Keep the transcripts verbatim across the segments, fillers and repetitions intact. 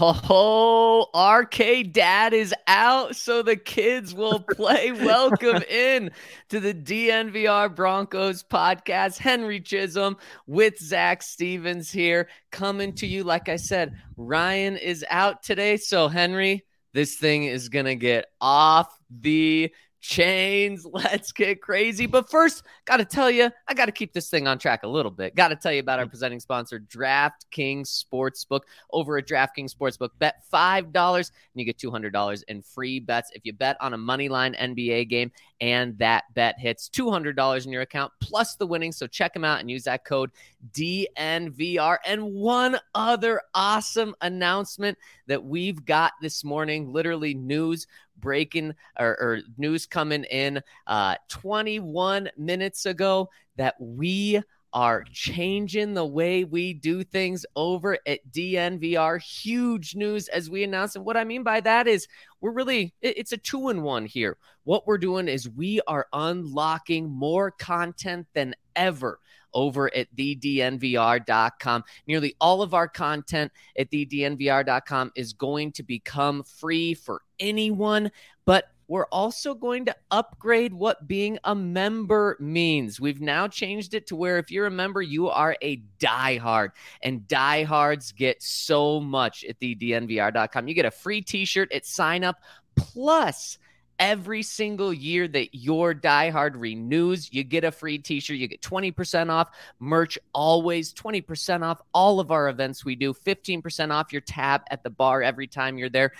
Oh, R K Dad is out, so the kids will play. Welcome in to the D N V R Broncos podcast. Henry Chisholm with Zach Stevens here, coming to you. Like I said, Ryan is out today, so Henry, this thing is going to get off the chains. Let's get crazy. But first, got to tell you, I got to keep this thing on track a little bit. Got to tell you about our presenting sponsor, DraftKings Sportsbook. Over at DraftKings Sportsbook, bet five dollars and you get two hundred dollars in free bets. If you bet on a moneyline N B A game and that bet hits, two hundred dollars in your account plus the winnings. So check them out and use that code D N V R. And one other awesome announcement that we've got this morning, literally news breaking or, or news coming in uh, twenty-one minutes ago, that we are changing the way we do things over at D N V R. Huge news as we announced. And what I mean by that is we're really, it's a two-in-one here. What we're doing is we are unlocking more content than ever over at the D N V R dot com. Nearly all of our content at the D N V R dot com is going to become free for anyone, but we're also going to upgrade what being a member means. We've now changed it to where if you're a member, you are a diehard, and diehards get so much at the D N V R dot com. You get a free t-shirt at sign up, plus every single year that your diehard renews, you get a free t-shirt. You get twenty percent off merch, always twenty percent off all of our events we do, fifteen percent off your tab at the bar every time you're there,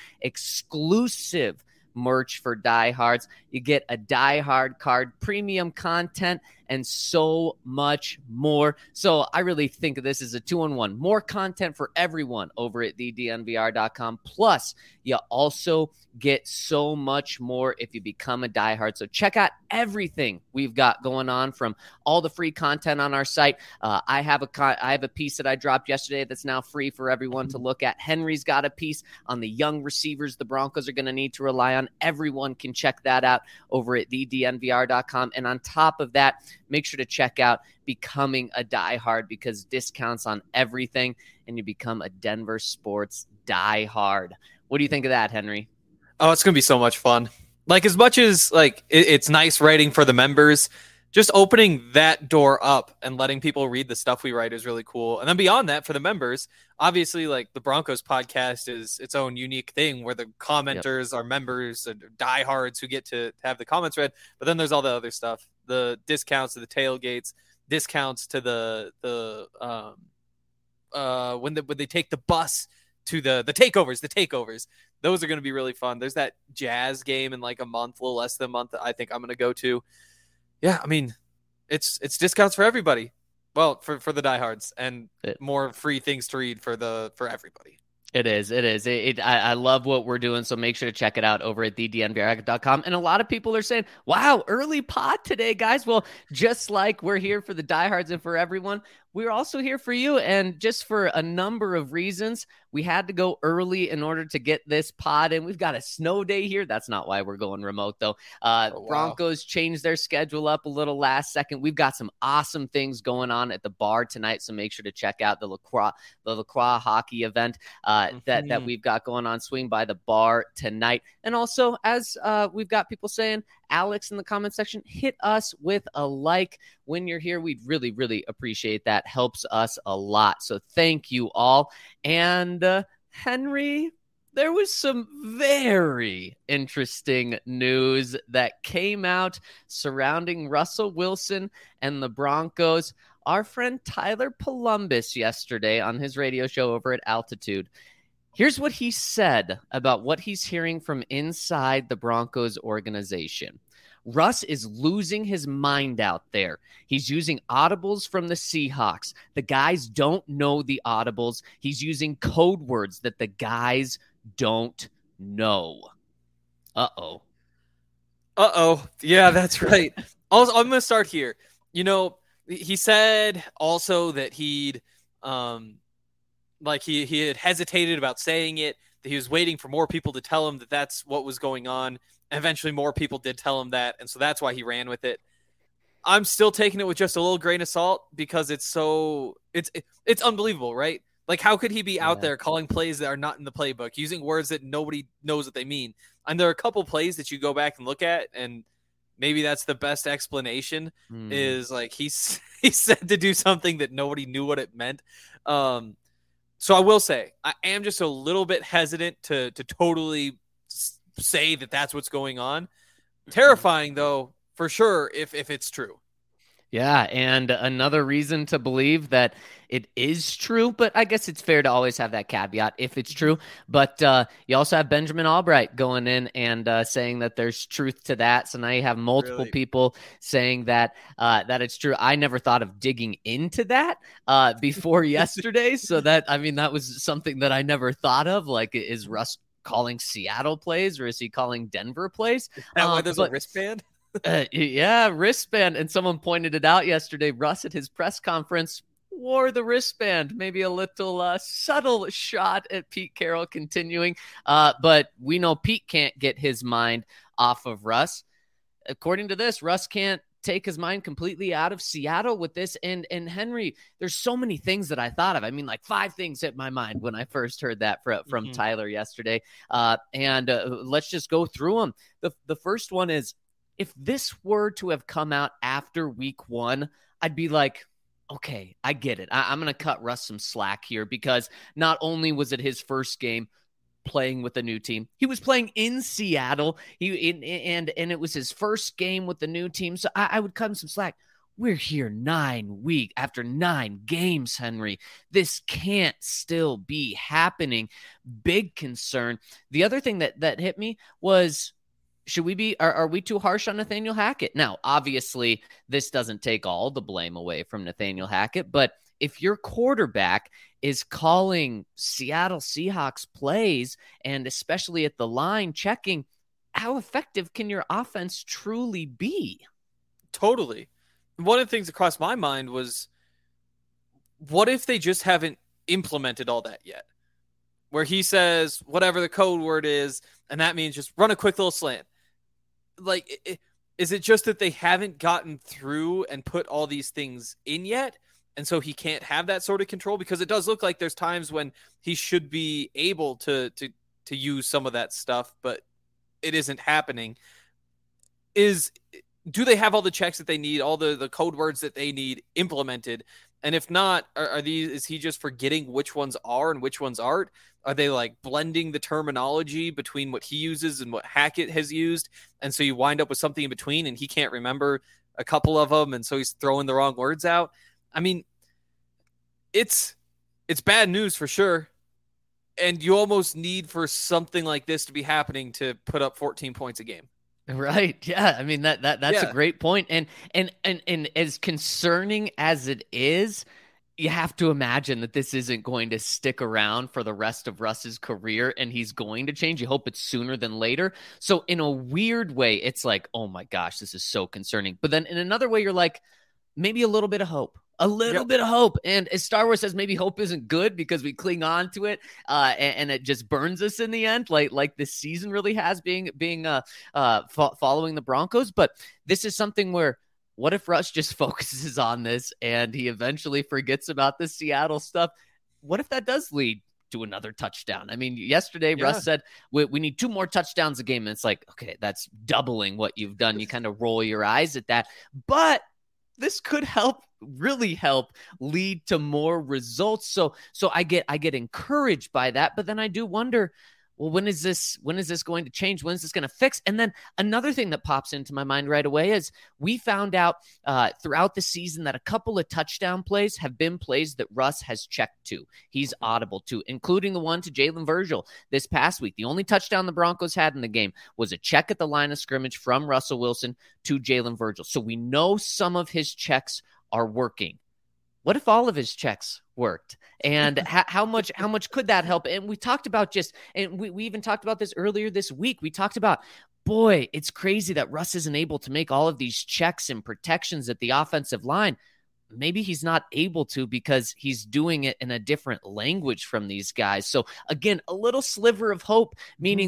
exclusive merch for diehards. You get a diehard card, premium content, and so much more. So I really think of this as a two-in-one. More content for everyone over at the D N V R dot com. Plus, you also get so much more if you become a diehard. So check out everything we've got going on, from all the free content on our site. Uh, I have a con- I have a piece that I dropped yesterday that's now free for everyone to look at. Henry's got a piece on the young receivers the Broncos are going to need to rely on. Everyone can check that out over at the D N V R dot com. And on top of that, make sure to check out Becoming a Diehard, because discounts on everything, and you become a Denver sports diehard. What do you think of that, Henry? Oh, it's going to be so much fun. Like, as much as like it, it's nice writing for the members, just opening that door up and letting people read the stuff we write is really cool. And then beyond that, for the members, obviously, like, the Broncos podcast is its own unique thing where the commenters yep. are members and diehards who get to have the comments read. But then there's all the other stuff, the discounts to the tailgates, discounts to the the um uh when the when they take the bus to the the takeovers, the takeovers. Those are going to be really fun. There's that Jazz game in like a month, a little less than a month, that I think I'm going to go to. Yeah, I mean, it's it's discounts for everybody. Well, for, for the diehards, and it, more free things to read for the for everybody. It is. It is. It, it, I, I love what we're doing, so make sure to check it out over at the D N V R dot com. And a lot of people are saying, wow, early pod today, guys. Well, just like we're here for the diehards and for everyone, we're also here for you. And just for a number of reasons, we had to go early in order to get this pod in. We've got a snow day here. That's not why we're going remote, though. Uh, oh, wow. Broncos changed their schedule up a little last second. We've got some awesome things going on at the bar tonight, so make sure to check out the Lacroix, the Lacroix hockey event uh, mm-hmm. that, that we've got going on. Swing by the bar tonight. And also, as uh, we've got people saying, Alex in the comment section, hit us with a like when you're here. We'd really, really appreciate that. Helps us a lot. So thank you all. And uh, Henry, there was some very interesting news that came out surrounding Russell Wilson and the Broncos. Our friend Tyler Polumbus yesterday on his radio show over at Altitude, here's what he said about what he's hearing from inside the Broncos organization. Russ is losing his mind out there. He's using audibles from the Seahawks. The guys don't know the audibles. He's using code words that the guys don't know. Uh-oh. Uh-oh. Yeah, that's right. Also, I'm going to start here. You know, he said also that he'd, um, like he, he had hesitated about saying it, that he was waiting for more people to tell him that that's what was going on. Eventually more people did tell him that, and so that's why he ran with it. I'm still taking it with just a little grain of salt because it's so it's it, it's unbelievable, right? Like, how could he be out Yeah. there calling plays that are not in the playbook, using words that nobody knows what they mean? And there are a couple plays that you go back and look at, and maybe that's the best explanation Hmm. is like he's he said to do something that nobody knew what it meant. Um, so I will say I am just a little bit hesitant to to totally s- say that that's what's going on. Terrifying though, for sure, if if it's true. Yeah, and another reason to believe that it is true, but I guess it's fair to always have that caveat if it's true. But uh, you also have Benjamin Albright going in and uh, saying that there's truth to that. So now you have multiple Really? people saying that uh, that it's true. I never thought of digging into that uh, before yesterday. So that, I mean, that was something that I never thought of. Like, is Russ calling Seattle plays or is he calling Denver plays? That why Um, there's but- a wristband? Uh, yeah, wristband. And someone pointed it out yesterday. Russ at his press conference wore the wristband. Maybe a little uh, subtle shot at Pete Carroll continuing. Uh, but we know Pete can't get his mind off of Russ. According to this, Russ can't take his mind completely out of Seattle with this. And and Henry, there's so many things that I thought of. I mean, like five things hit my mind when I first heard that from, from Mhm. Tyler yesterday. Uh, and uh, let's just go through them. The, the first one is, if this were to have come out after week one, I'd be like, okay, I get it. I- I'm going to cut Russ some slack here because not only was it his first game playing with a new team, he was playing in Seattle. He in, and and it was his first game with the new team, so I, I would cut him some slack. We're here nine week after nine games, Henry. This can't still be happening. Big concern. The other thing that that hit me was, should we be, are, are we too harsh on Nathaniel Hackett? Now, obviously, this doesn't take all the blame away from Nathaniel Hackett, but if your quarterback is calling Seattle Seahawks plays, and especially at the line checking, how effective can your offense truly be? Totally. One of the things that crossed my mind was, what if they just haven't implemented all that yet? Where he says whatever the code word is, and that means just run a quick little slant. Like, it, is it just that they haven't gotten through and put all these things in yet? And so he can't have that sort of control, because it does look like there's times when he should be able to, to, to use some of that stuff, but it isn't happening. Is, do they have all the checks that they need, all the, the code words that they need implemented? And if not, are, are these, is he just forgetting which ones are and which ones aren't? Are they like blending the terminology between what he uses and what Hackett has used? And so you wind up with something in between and he can't remember a couple of them. And so he's throwing the wrong words out. I mean, it's, it's bad news for sure. And you almost need for something like this to be happening to put up fourteen points a game. Right. Yeah. I mean, that, that, that's Yeah. a great point. And, and, and, and as concerning as it is, you have to imagine that this isn't going to stick around for the rest of Russ's career, and he's going to change. You hope it's sooner than later. So in a weird way, it's like, oh my gosh, this is so concerning. But then in another way, you're like, maybe a little bit of hope. A little Yep. bit of hope. And as Star Wars says, maybe hope isn't good because we cling on to it uh, and, and it just burns us in the end, like like this season really has, being being uh, uh, fo- following the Broncos. But this is something where, what if Russ just focuses on this and he eventually forgets about the Seattle stuff? What if that does lead to another touchdown? I mean, yesterday Yeah. Russ said we, we need two more touchdowns a game. And it's like, okay, that's doubling what you've done. You kind of roll your eyes at that. But this could help, really help lead to more results. So, so I get, I get encouraged by that, but then I do wonder, well, when is this, when is this going to change? When is this going to fix? And then another thing that pops into my mind right away is we found out uh, throughout the season that a couple of touchdown plays have been plays that Russ has checked to. He's audible to, including the one to Jalen Virgil this past week. The only touchdown the Broncos had in the game was a check at the line of scrimmage from Russell Wilson to Jalen Virgil. So we know some of his checks are working. What if all of his checks worked? And how, how much how much could that help? And we talked about just, and we, we even talked about this earlier this week. We talked about, boy, it's crazy that Russ isn't able to make all of these checks and protections at the offensive line. Maybe he's not able to because he's doing it in a different language from these guys. So again, a little sliver of hope, meaning mm-hmm. that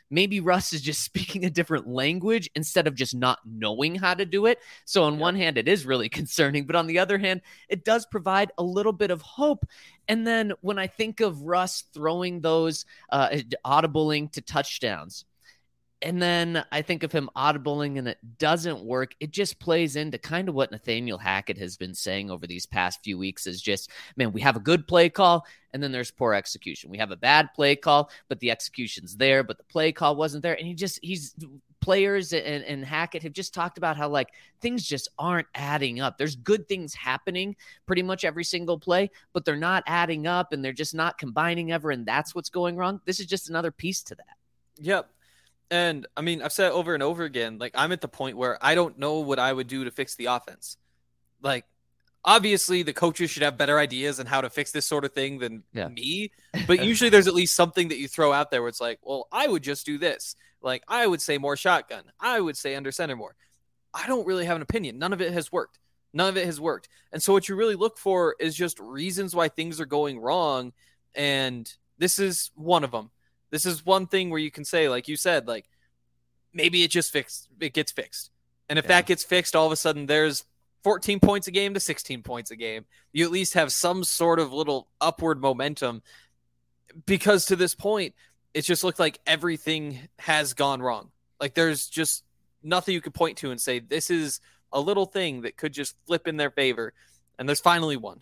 maybe Russ is just speaking a different language instead of just not knowing how to do it. So on yep. one hand, it is really concerning, but on the other hand, it does provide a little bit of hope. And then when I think of Russ throwing those uh, audibling to touchdowns, and then I think of him audibling and it doesn't work, it just plays into kind of what Nathaniel Hackett has been saying over these past few weeks is just, man, we have a good play call and then there's poor execution. We have a bad play call, but the execution's there, but the play call wasn't there. And he just, he's players and, and Hackett have just talked about how like things just aren't adding up. There's good things happening pretty much every single play, but they're not adding up and they're just not combining ever. And that's what's going wrong. This is just another piece to that. Yep. And I mean, I've said it over and over again, like I'm at the point where I don't know what I would do to fix the offense. Like, obviously the coaches should have better ideas on how to fix this sort of thing than yeah. me. But usually there's at least something that you throw out there where it's like, well, I would just do this. Like I would say more shotgun. I would say under center more. I don't really have an opinion. None of it has worked. None of it has worked. And so what you really look for is just reasons why things are going wrong. And this is one of them. This is one thing where you can say, like you said, like maybe it just fixed, it gets fixed. And if yeah. that gets fixed, all of a sudden there's fourteen points a game to sixteen points a game. You at least have some sort of little upward momentum because to this point, it's just looked like everything has gone wrong. Like there's just nothing you could point to and say, this is a little thing that could just flip in their favor. And there's finally one.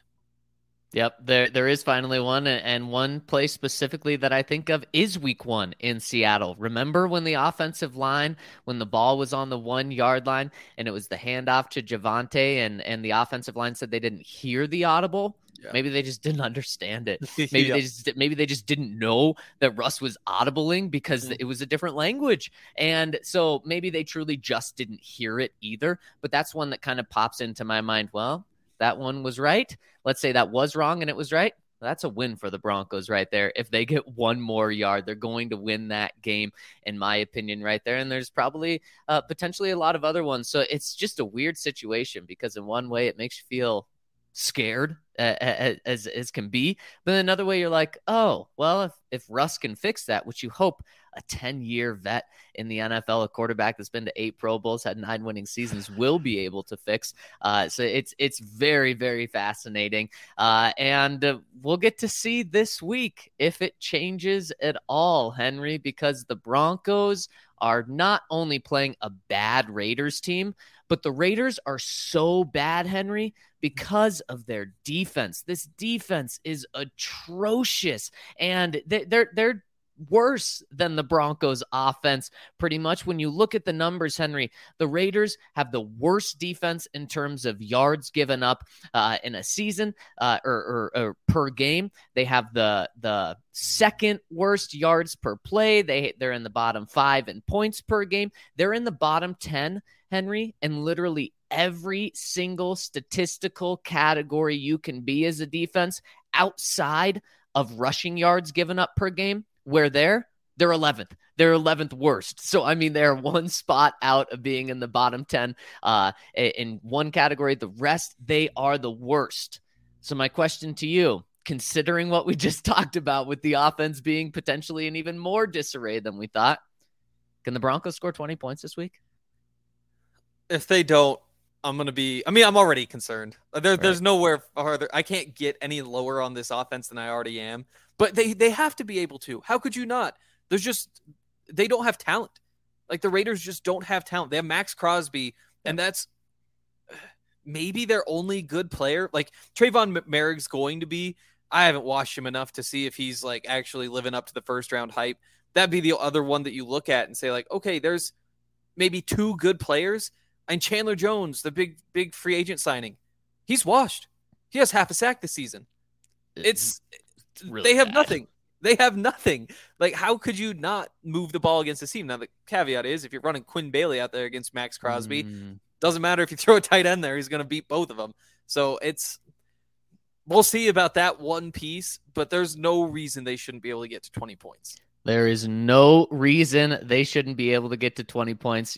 Yep, there there is finally one, and one play specifically that I think of is week one in Seattle. Remember when the offensive line, when the ball was on the one-yard line, and it was the handoff to Javonte, and, and the offensive line said they didn't hear the audible? Yeah. Maybe they just didn't understand it. Maybe yeah. they just maybe they just didn't know that Russ was audibling because mm-hmm. it was a different language. And so maybe they truly just didn't hear it either. But that's one that kind of pops into my mind. Well, that one was right. Let's say that was wrong and it was right. That's a win for the Broncos right there. If they get one more yard, they're going to win that game, in my opinion, right there. And there's probably uh, potentially a lot of other ones. So it's just a weird situation because in one way it makes you feel scared uh, as as can be, but in another way you're like, oh well, if if Russ can fix that, which you hope a ten-year vet in the N F L, a quarterback that's been to eight Pro Bowls, had nine winning seasons, will be able to fix. Uh, so it's it's very, very fascinating. Uh, and uh, we'll get to see this week if it changes at all, Henry, because the Broncos are not only playing a bad Raiders team, but the Raiders are so bad, Henry, because of their defense. This defense is atrocious, and they, they're they're worse than the Broncos offense pretty much. When you look at the numbers, Henry, the Raiders have the worst defense in terms of yards given up uh, in a season uh, or, or, or per game. They have the the second worst yards per play. They they're in the bottom five in points per game. They're in the bottom ten, Henry, and literally every single statistical category you can be as a defense outside of rushing yards given up per game. Where they're, they're eleventh. They're eleventh worst. So, I mean, they're one spot out of being in the bottom ten uh, in one category. The rest, they are the worst. So my question to you, considering what we just talked about with the offense being potentially in even more disarray than we thought, can the Broncos score twenty points this week? If they don't, I'm going to be, I mean, I'm already concerned. There, right. There's nowhere farther. I can't get any lower on this offense than I already am. But they, they have to be able to. How could you not? There's just, they don't have talent. Like the Raiders just don't have talent. They have Max Crosby, and that's maybe their only good player. Like Trayvon Merrick's going to be, I haven't watched him enough to see if he's like actually living up to the first round hype. That'd be the other one that you look at and say like, okay, there's maybe two good players. And Chandler Jones, the big, big free agent signing, he's washed. He has half a sack this season. It's, Really they have bad. nothing. They have nothing. Like, how could you not move the ball against this team? Now, the caveat is if you're running Quinn Bailey out there against Max Crosby, mm. doesn't matter if you throw a tight end there, he's going to beat both of them. So it's, we'll see about that one piece, but there's no reason they shouldn't be able to get to twenty points. There is no reason they shouldn't be able to get to twenty points. You're spot on, Henry. In fact, every single team, including the Broncos,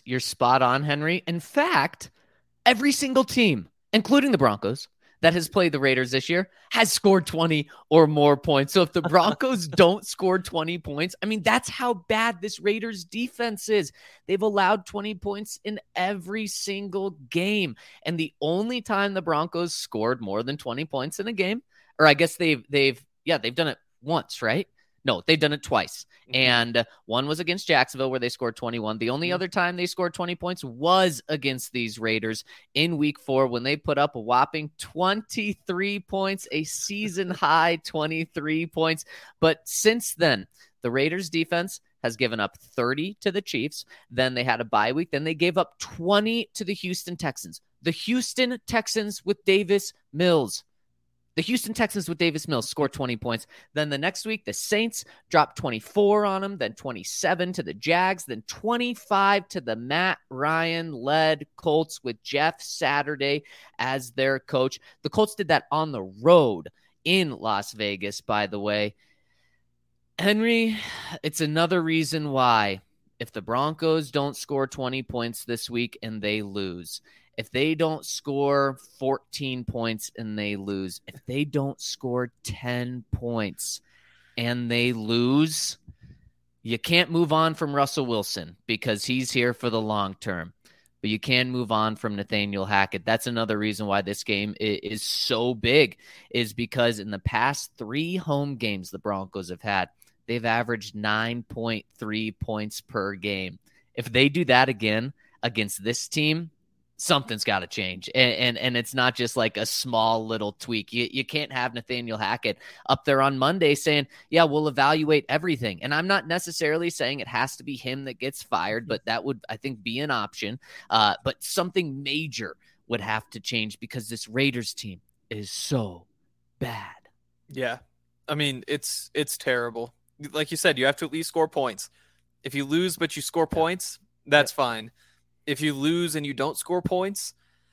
that has played the Raiders this year has scored twenty or more points. So if the Broncos don't score twenty points, I mean, that's how bad this Raiders defense is. They've allowed twenty points in every single game. And the only time the Broncos scored more than twenty points in a game, or I guess they've, they've, yeah, they've done it once, right? No, they've done it twice. Mm-hmm. And one was against Jacksonville where they scored twenty-one. The only mm-hmm. other time they scored twenty points was against these Raiders in week four when they put up a whopping twenty-three points, a season high twenty-three points. But since then, the Raiders defense has given up thirty to the Chiefs. Then they had a bye week. Then they gave up twenty to the Houston Texans. The Houston Texans with Davis Mills. The Houston Texans with Davis Mills scored twenty points. Then the next week, the Saints dropped twenty-four on them, then twenty-seven to the Jags, then twenty-five to the Matt Ryan-led Colts with Jeff Saturday as their coach. The Colts did that on the road in Las Vegas, by the way. Henry, it's another reason why if the Broncos don't score twenty points this week and they lose, if they don't score fourteen points and they lose, if they don't score ten points and they lose, you can't move on from Russell Wilson because he's here for the long term. But you can move on from Nathaniel Hackett. That's another reason why this game is so big, is because in the past three home games the Broncos have had, they've averaged nine point three points per game. If they do that again against this team, something's got to change. And, and and it's not just like a small little tweak. You, you can't have Nathaniel Hackett up there on Monday saying, yeah, we'll evaluate everything. And I'm not necessarily saying it has to be him that gets fired, but that would, I think, be an option. Uh, but something major would have to change because this Raiders team is so bad. Yeah. I mean, it's it's terrible. Like you said, you have to at least score points. If you lose but you score points, that's fine. If you lose and you don't score points,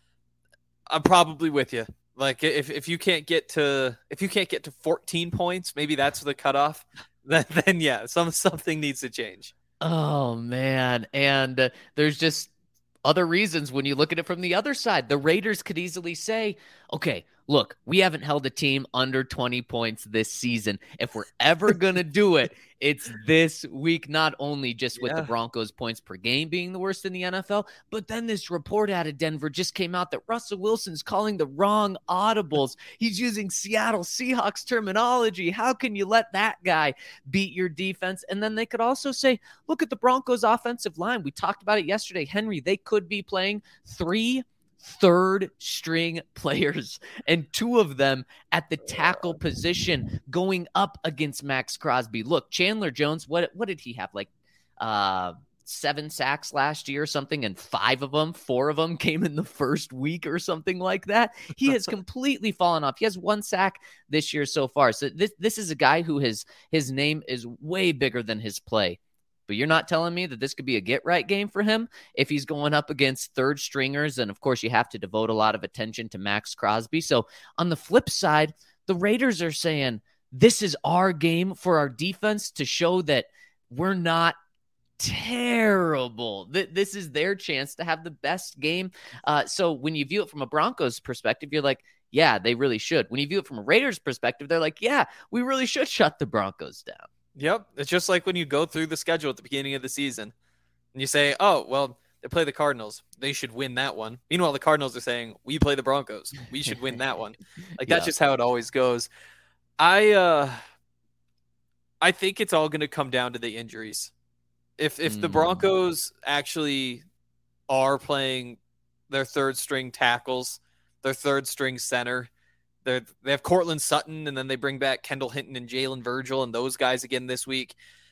I'm probably with you. Like if, if you can't get to if you can't get to fourteen points, maybe that's the cutoff. Then then yeah, some something needs to change. Oh man, and uh, there's just other reasons when you look at it from the other side. The Raiders could easily say, okay, look, we haven't held a team under twenty points this season. If we're ever going to do it, it's this week, not only just with yeah. the Broncos points per game being the worst in the N F L, but then this report out of Denver just came out that Russell Wilson's calling the wrong audibles. He's using Seattle Seahawks terminology. How can you let that guy beat your defense? And then they could also say, look at the Broncos offensive line. We talked about it yesterday. Henry, they could be playing three third string players and two of them at the tackle position going up against Max Crosby. Look, Chandler Jones, what what did he have? Like uh, seven sacks last year or something, and five of them, four of them came in the first week or something like that. He has completely fallen off. He has one sack this year so far. So this this is a guy who has his name is way bigger than his play. But you're not telling me that this could be a get-right game for him if he's going up against third stringers. And, of course, you have to devote a lot of attention to Max Crosby. So, on the flip side, the Raiders are saying this is our game for our defense to show that we're not terrible. This is their chance to have the best game. Uh, so, when you view it from a Broncos perspective, you're like, yeah, they really should. When you view it from a Raiders perspective, they're like, yeah, we really should shut the Broncos down. Yep. It's just like when you go through the schedule at the beginning of the season and you say, oh, well, they play the Cardinals. They should win that one. Meanwhile, the Cardinals are saying, we play the Broncos. We should win that one. Like, that's yeah. just how it always goes. I uh, I think it's all going to come down to the injuries. If if mm. the Broncos actually are playing their third string tackles, their third string center, They they have Cortland Sutton, and then they bring back Kendall Hinton and Jalen Virgil and those guys again this week.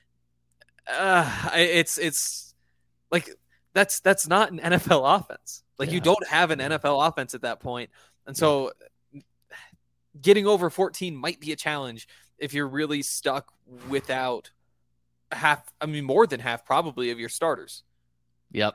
Uh, it's it's like that's that's not an N F L offense. Like yeah. you don't have an N F L offense at that point, and so getting over fourteen might be a challenge if you're really stuck without half. I mean, more than half probably of your starters. Yep.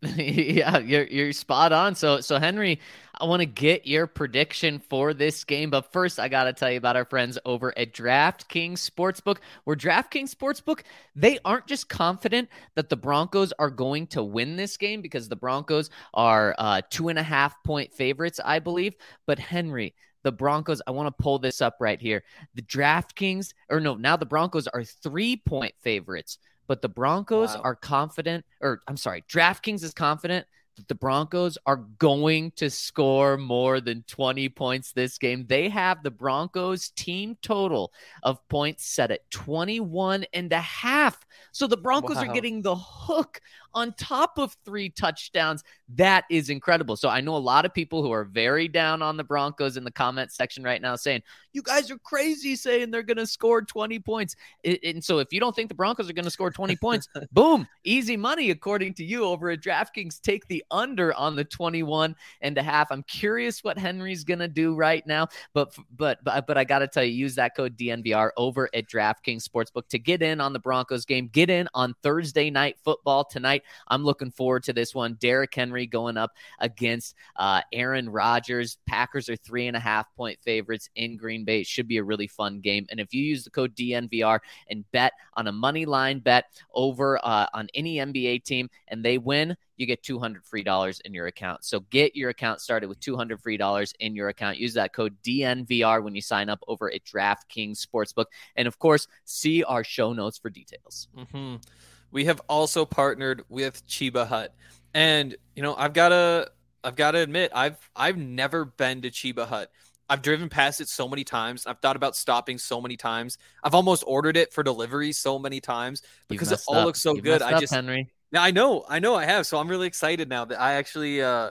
Yeah, you're you're spot on. So so Henry, I want to get your prediction for this game, but first I got to tell you about our friends over at DraftKings Sportsbook. Where DraftKings Sportsbook, they aren't just confident that the Broncos are going to win this game because the Broncos are uh, two and a half point favorites, I believe. But Henry, the Broncos, I want to pull this up right here. The DraftKings, or no, now the Broncos are three point favorites. But the Broncos wow. are confident, or I'm sorry, DraftKings is confident that the Broncos are going to score more than twenty points this game. They have the Broncos team total of points set at twenty-one and a half. So the Broncos wow. are getting the hook on top of three touchdowns. That is incredible. So I know a lot of people who are very down on the Broncos in the comment section right now saying, you guys are crazy saying they're going to score twenty points. And so if you don't think the Broncos are going to score twenty points, boom, easy money according to you over at DraftKings. Take the under on the twenty-one and a half. I'm curious what Henry's going to do right now, but but but, but I got to tell you, use that code D N V R over at DraftKings Sportsbook to get in on the Broncos game. Get in on Thursday night football tonight. I'm looking forward to this one. Derrick Henry going up against uh, Aaron Rodgers. Packers are three and a half point favorites in Green Bay. It should be a really fun game. And if you use the code D N V R and bet on a money line bet over uh, on any N B A team and they win, you get two hundred free dollars in your account. So get your account started with two hundred free dollars in your account. Use that code D N V R when you sign up over at DraftKings Sportsbook. And of course, see our show notes for details. Mm-hmm. We have also partnered with Cheba Hut. And, you know, I've got to I've got to admit, I've I've never been to Cheba Hut. I've driven past it so many times. I've thought about stopping so many times. I've almost ordered it for delivery so many times because it all up. looks so You've good. I up, just Henry. Yeah, I know. I know I have. So I'm really excited now that I actually uh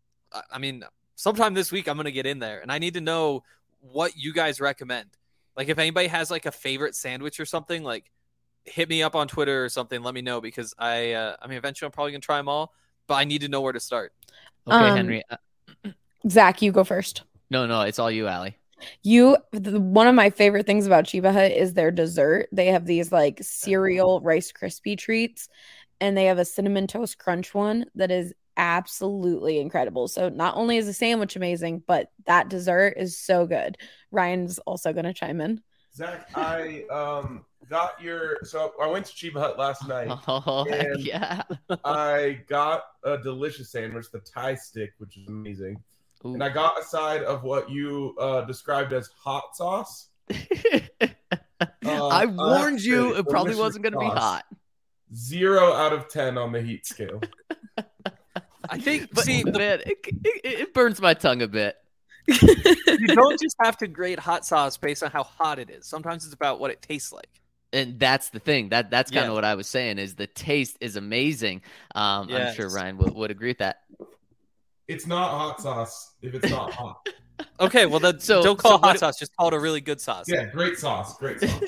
I mean, sometime this week I'm going to get in there and I need to know what you guys recommend. Like if anybody has like a favorite sandwich or something, like hit me up on Twitter or something. Let me know because I, uh, I mean, eventually I'm probably gonna try them all, but I need to know where to start. Okay, um, Henry. Zach, you go first. No, no, it's all you, Allie. You, the, one of my favorite things about Cheba Hut is their dessert. They have these like cereal Rice Krispie treats, and they have a cinnamon toast crunch one that is absolutely incredible. So not only is the sandwich amazing, but that dessert is so good. Ryan's also gonna chime in. Zach, I um got your so I went to Cheba Hut last night. Oh, and yeah. I got a delicious sandwich, the Thai stick, which is amazing. Ooh. And I got a side of what you uh, described as hot sauce. uh, I warned you it probably wasn't going to be hot. Zero out of ten on the heat scale. I think, but, see, man, it, it, it burns my tongue a bit. You don't just have to grade hot sauce based on how hot it is. Sometimes it's about what it tastes like. And that's the thing. That that's kind of yeah. what I was saying is the taste is amazing. Um, yes. I'm sure Ryan would, would agree with that. It's not hot sauce if it's not hot. Okay, well then so, don't call so it hot what, sauce. Just call it a really good sauce. Yeah, great sauce. Great sauce.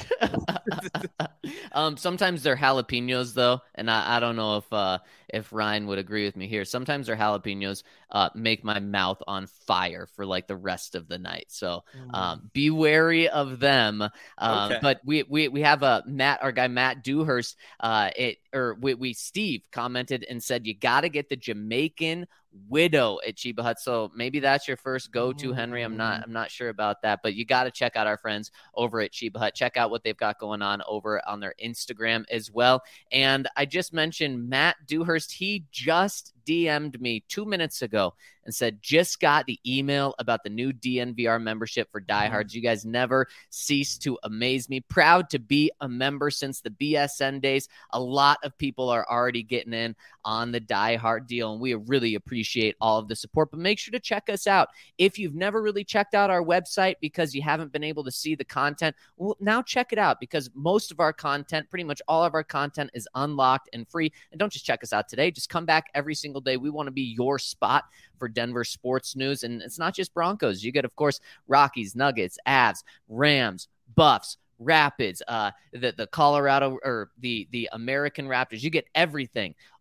um, sometimes they're jalapenos though, and I, I don't know if uh, if Ryan would agree with me here. Sometimes their jalapenos uh, make my mouth on fire for like the rest of the night. So um, be wary of them. Um, okay. But we we we have a Matt, our guy Matt Dewhurst. Uh, it or we, we Steve commented and said you got to get the Jamaican Widow at Cheba Hut. So maybe that's your first go-to, Henry. I'm not I'm not sure about that, but you got to check out our friends over at Cheba Hut. Check out what they've got going on over on their Instagram as well. And I just mentioned Matt Dewhurst. He just D M'd me two minutes ago and said, just got the email about the new D N V R membership for diehards. You guys never cease to amaze me. Proud to be a member since the B S N days. A lot of people are already getting in on the diehard deal, and we really appreciate all of the support. But make sure to check us out. If you've never really checked out our website because you haven't been able to see the content, well, now check it out because most of our content, pretty much all of our content is unlocked and free. And don't just check us out today. Just come back every single day. We want to be your spot for Denver sports news. And it's not just Broncos. You get, of course, Rockies, Nuggets, Avs, Rams, Buffs, Rapids, uh, the, the Colorado or the, the American Raptors. You get everything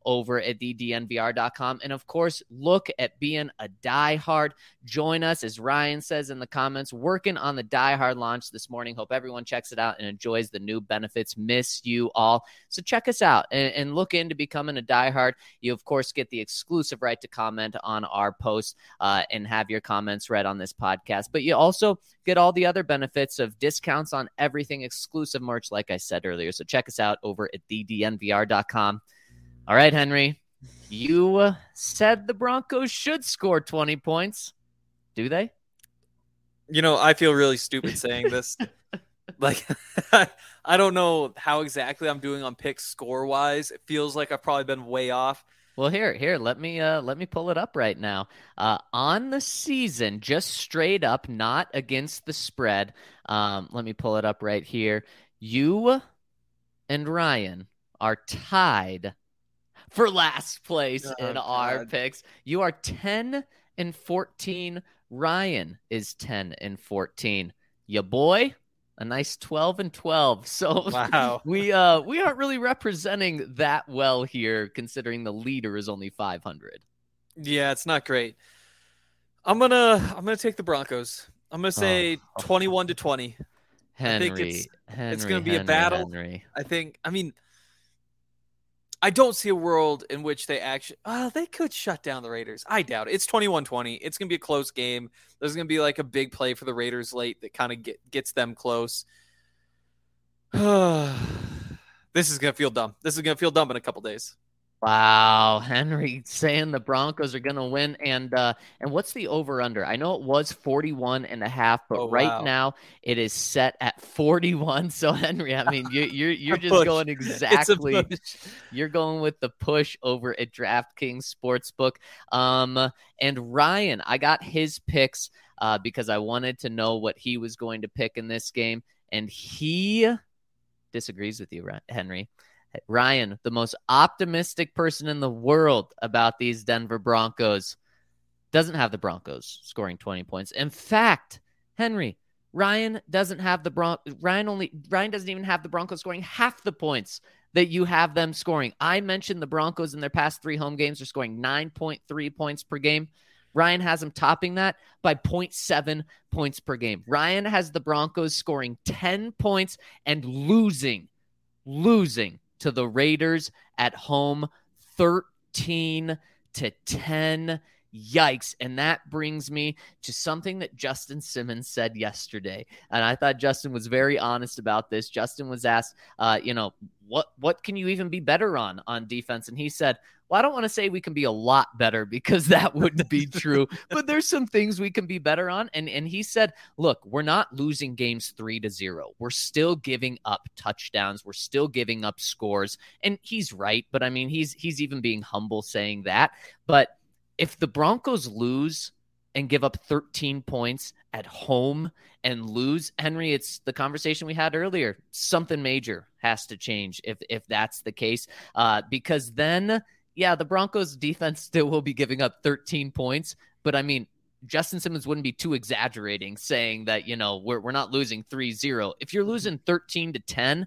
over at the D N V R dot com. And of course, look at being a diehard. Join us, as Ryan says in the comments, working on the diehard launch this morning. Hope everyone checks it out and enjoys the new benefits. Miss you all. So check us out and, and look into becoming a diehard. You, of course, get the exclusive right to comment on our posts uh, and have your comments read on this podcast. But you also get all the other benefits of discounts on everything, exclusive merch, like I said earlier. So check us out over at the D N V R dot com. All right, Henry, you said the Broncos should score twenty points. Do they? You know, I feel really stupid saying this. Like, I don't know how exactly I'm doing on picks score-wise. It feels like I've probably been way off. Well, here, here, let me uh, let me pull it up right now. Uh, on the season, just straight up, not against the spread. Um, let me pull it up right here. You and Ryan are tied for last place oh, in God. our picks. You are ten and fourteen. Ryan is ten and fourteen. Ya boy, a nice twelve and twelve. So wow. we uh we aren't really representing that well here, considering the leader is only five hundred. Yeah, it's not great. I'm gonna I'm gonna take the Broncos. I'm gonna say oh. twenty-one to twenty. Henry, I think it's, Henry, it's gonna be Henry, a battle. Henry. I think. I mean, I don't see a world in which they actually. Oh, they could shut down the Raiders. I doubt it. It's twenty-one twenty. It's gonna be a close game. There's gonna be like a big play for the Raiders late that kind of get, gets them close. This is gonna feel dumb. This is gonna feel dumb in a couple days. Wow, Henry saying the Broncos are going to win. And uh, and what's the over-under? I know it was forty-one and a half, but oh, right wow. now it is set at forty-one. So, Henry, I mean, you, you're you're just going exactly. You're going with the push over at DraftKings Sportsbook. Um, and Ryan, I got his picks uh, because I wanted to know what he was going to pick in this game. And he disagrees with you, Henry. Ryan, the most optimistic person in the world about these Denver Broncos, doesn't have the Broncos scoring twenty points. In fact, Henry, Ryan doesn't have the Bron- Ryan only Ryan doesn't even have the Broncos scoring half the points that you have them scoring. I mentioned the Broncos in their past three home games are scoring nine point three points per game. Ryan has them topping that by zero point seven points per game. Ryan has the Broncos scoring ten points and losing, losing to the Raiders at home, thirteen to ten. Yikes. And that brings me to something that Justin Simmons said yesterday. And I thought Justin was very honest about this. Justin was asked, uh, you know, what, what can you even be better on on defense? And he said, well, I don't want to say we can be a lot better because that wouldn't be true, but there's some things we can be better on. And, and he said, look, we're not losing games three to zero. We're still giving up touchdowns. We're still giving up scores. And he's right. But I mean, he's, he's even being humble saying that. But if the Broncos lose and give up thirteen points at home and lose, Henry, it's the conversation we had earlier. Something major has to change if if that's the case, uh, because then, yeah, the Broncos defense still will be giving up thirteen points. But I mean, Justin Simmons wouldn't be too exaggerating saying that, you know, we're we're not losing three zero. If you're losing thirteen to ten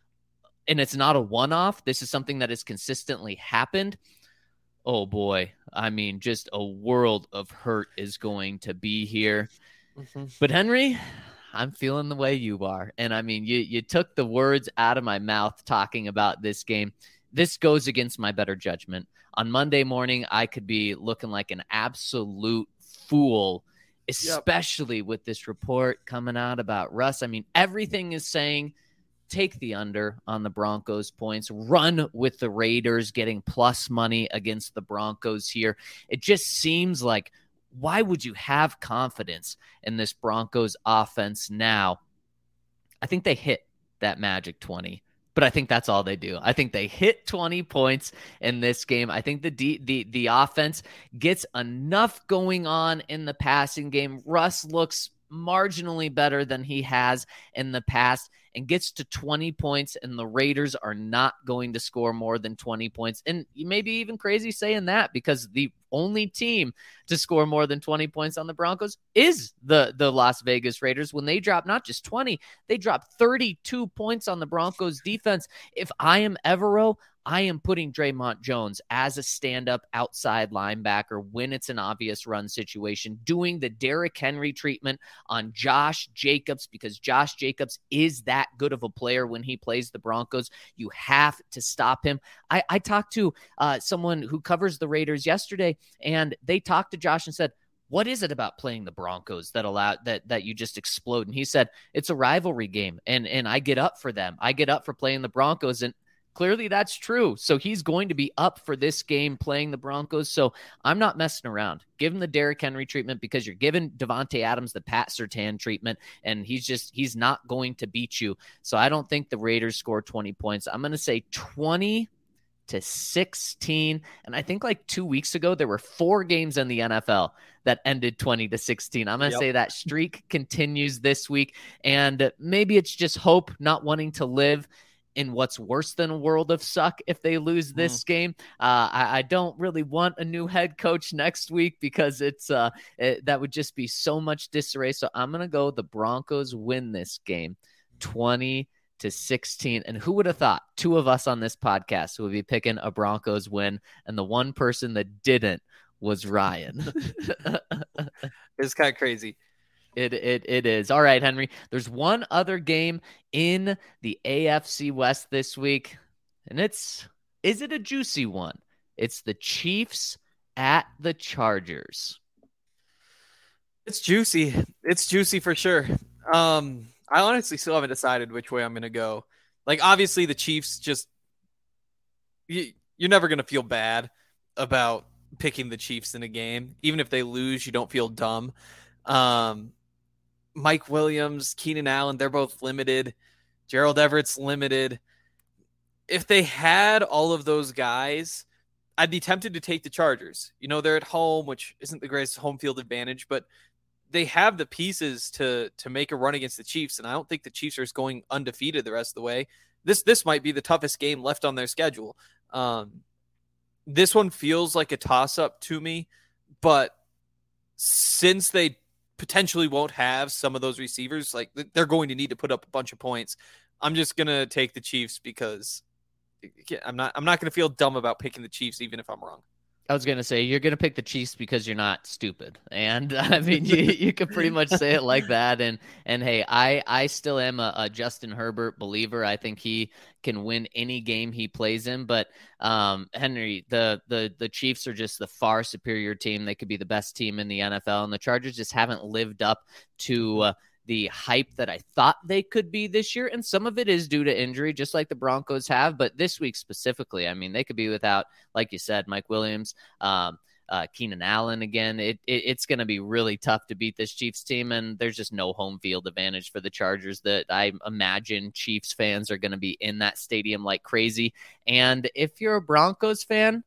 and it's not a one-off, this is something that has consistently happened. Oh boy. I mean, just a world of hurt is going to be here. Mm-hmm. But Henry, I'm feeling the way you are. And I mean, you, you took the words out of my mouth talking about this game. This goes against my better judgment. On Monday morning, I could be looking like an absolute fool, especially yep. with this report coming out about Russ. I mean, everything is saying take the under on the Broncos points, run with the Raiders getting plus money against the Broncos here. It just seems like, why would you have confidence in this Broncos offense now? I think they hit that magic twenty, but I think that's all they do. I think they hit twenty points in this game. I think the D, the the offense gets enough going on in the passing game. Russ looks marginally better than he has in the past and gets to twenty points, and the Raiders are not going to score more than twenty points. And you may be even crazy saying that because the only team to score more than twenty points on the Broncos is the, the Las Vegas Raiders. When they drop not just twenty, they drop thirty-two points on the Broncos defense. If I am Evero, I am putting Draymond Jones as a stand-up outside linebacker when it's an obvious run situation, doing the Derrick Henry treatment on Josh Jacobs, because Josh Jacobs is that good of a player when he plays the Broncos. You have to stop him. I, I talked to uh, someone who covers the Raiders yesterday, and they talked to Josh and said, what is it about playing the Broncos that allow that that you just explode? And he said, it's a rivalry game, and and I get up for them. I get up for playing the Broncos, and clearly that's true. So he's going to be up for this game playing the Broncos. So I'm not messing around. Give him the Derrick Henry treatment, because you're giving Devontae Adams the Pat Surtain treatment, and he's just, he's not going to beat you. So I don't think the Raiders score twenty points. I'm going to say twenty to sixteen. And I think like two weeks ago, there were four games in the N F L that ended twenty to sixteen. I'm going to yep. say that streak continues this week. And maybe it's just hope, not wanting to live in what's worse than a world of suck if they lose this mm. game. Uh, I, I don't really want a new head coach next week, because it's uh, it, that would just be so much disarray. So I'm going to go the Broncos win this game twenty to sixteen. And who would have thought two of us on this podcast would be picking a Broncos win, and the one person that didn't was Ryan. It's kind of crazy. It it it is. All right, Henry. There's one other game in the A F C West this week, and it's is it a juicy one? It's the Chiefs at the Chargers. It's juicy. It's juicy for sure. Um, I honestly still haven't decided which way I'm going to go. Like, obviously, the Chiefs just you, you're never going to feel bad about picking the Chiefs in a game, even if they lose. You don't feel dumb. Um. Mike Williams, Keenan Allen, they're both limited. Gerald Everett's limited. If they had all of those guys, I'd be tempted to take the Chargers. You know, they're at home, which isn't the greatest home field advantage, but they have the pieces to to make a run against the Chiefs, and I don't think the Chiefs are going undefeated the rest of the way. This this might be the toughest game left on their schedule. Um, this one feels like a toss-up to me, but since they potentially won't have some of those receivers, like they're going to need to put up a bunch of points, I'm just going to take the Chiefs, because I'm not, I'm not going to feel dumb about picking the Chiefs, even if I'm wrong. I was going to say, you're going to pick the Chiefs because you're not stupid. And I mean, you, you could pretty much say it like that. And, and hey, I, I still am a, a Justin Herbert believer. I think he can win any game he plays in, but um, Henry, the, the, the Chiefs are just the far superior team. They could be the best team in the N F L, and the Chargers just haven't lived up to uh, the hype that I thought they could be this year. And some of it is due to injury, just like the Broncos have. But this week specifically, I mean, they could be without, like you said, Mike Williams, um, uh, Keenan Allen again. It, it It's going to be really tough to beat this Chiefs team. And there's just no home field advantage for the Chargers. That I imagine Chiefs fans are going to be in that stadium like crazy. And if you're a Broncos fan,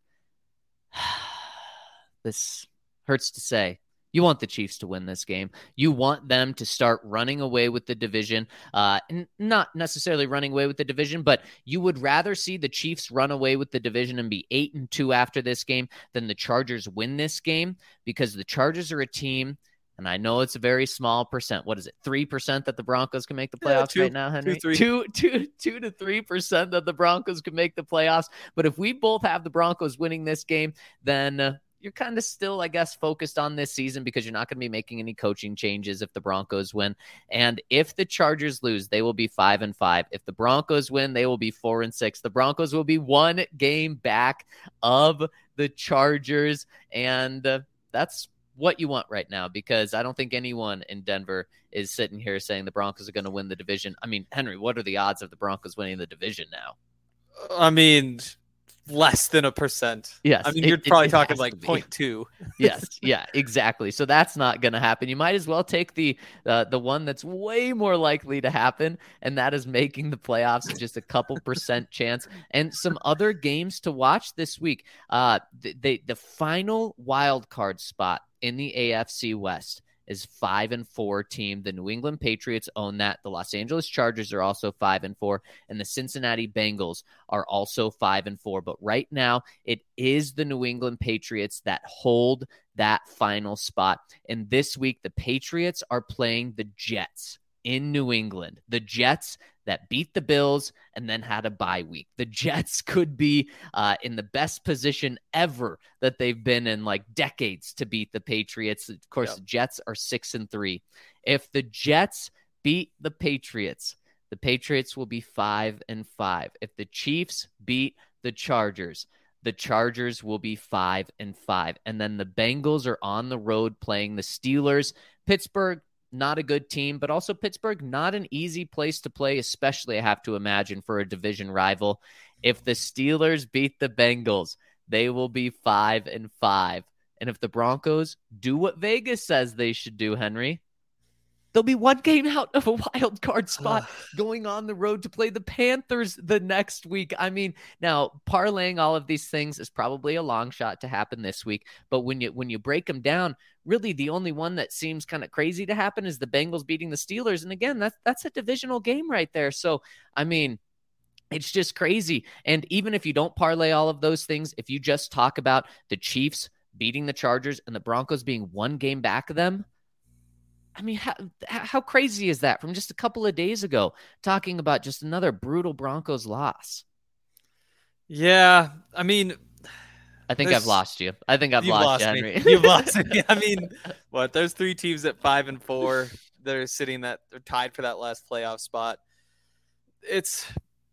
this hurts to say, you want the Chiefs to win this game. You want them to start running away with the division. Uh, n- not necessarily running away with the division, but you would rather see the Chiefs run away with the division and be eight and two after this game than the Chargers win this game, because the Chargers are a team, and I know it's a very small percent. What is it? three percent that the Broncos can make the playoffs yeah, two, right now, Henry? Two, two, two, two to three percent that the Broncos can make the playoffs. But if we both have the Broncos winning this game, then uh, you're kind of still, I guess, focused on this season, because you're not going to be making any coaching changes if the Broncos win. And if the Chargers lose, they will be five and five. If the Broncos win, they will be four and six. The Broncos will be one game back of the Chargers. And uh, that's what you want right now, because I don't think anyone in Denver is sitting here saying the Broncos are going to win the division. I mean, Henry, what are the odds of the Broncos winning the division now? I mean, less than a percent. Yes. I mean, you're it, probably it, it talking like zero point two. Yes. Yeah, exactly. So that's not going to happen. You might as well take the uh, the one that's way more likely to happen, and that is making the playoffs just a couple percent chance. And some other games to watch this week. Uh, the, the, the final wild card spot in the A F C West is five and four team. The New England Patriots own that. The Los Angeles Chargers are also five and four, and the Cincinnati Bengals are also five and four. But right now, it is the New England Patriots that hold that final spot. And this week, the Patriots are playing the Jets in New England. The Jets that beat the Bills and then had a bye week. The Jets could be uh, in the best position ever that they've been in like decades to beat the Patriots. Of course, yep. The Jets are six and three. If the Jets beat the Patriots, the Patriots will be five and five. If the Chiefs beat the Chargers, the Chargers will be five and five. And then the Bengals are on the road playing the Steelers. Pittsburgh, not a good team, but also Pittsburgh, not an easy place to play, especially I have to imagine for a division rival. If the Steelers beat the Bengals, they will be five and five. And if the Broncos do what Vegas says they should do, Henry, they'll be one game out of a wild card spot going on the road to play the Panthers the next week. I mean, now parlaying all of these things is probably a long shot to happen this week. But when you when you break them down, really the only one that seems kind of crazy to happen is the Bengals beating the Steelers. And again, that's that's a divisional game right there. So, I mean, it's just crazy. And even if you don't parlay all of those things, if you just talk about the Chiefs beating the Chargers and the Broncos being one game back of them, I mean, how, how crazy is that from just a couple of days ago, talking about just another brutal Broncos loss? Yeah, I mean, I think I've lost you. I think I've you've lost, lost you, Henry. Me. You've lost me. I mean, what? There's three teams at five and four. They're sitting that they're tied for that last playoff spot. It's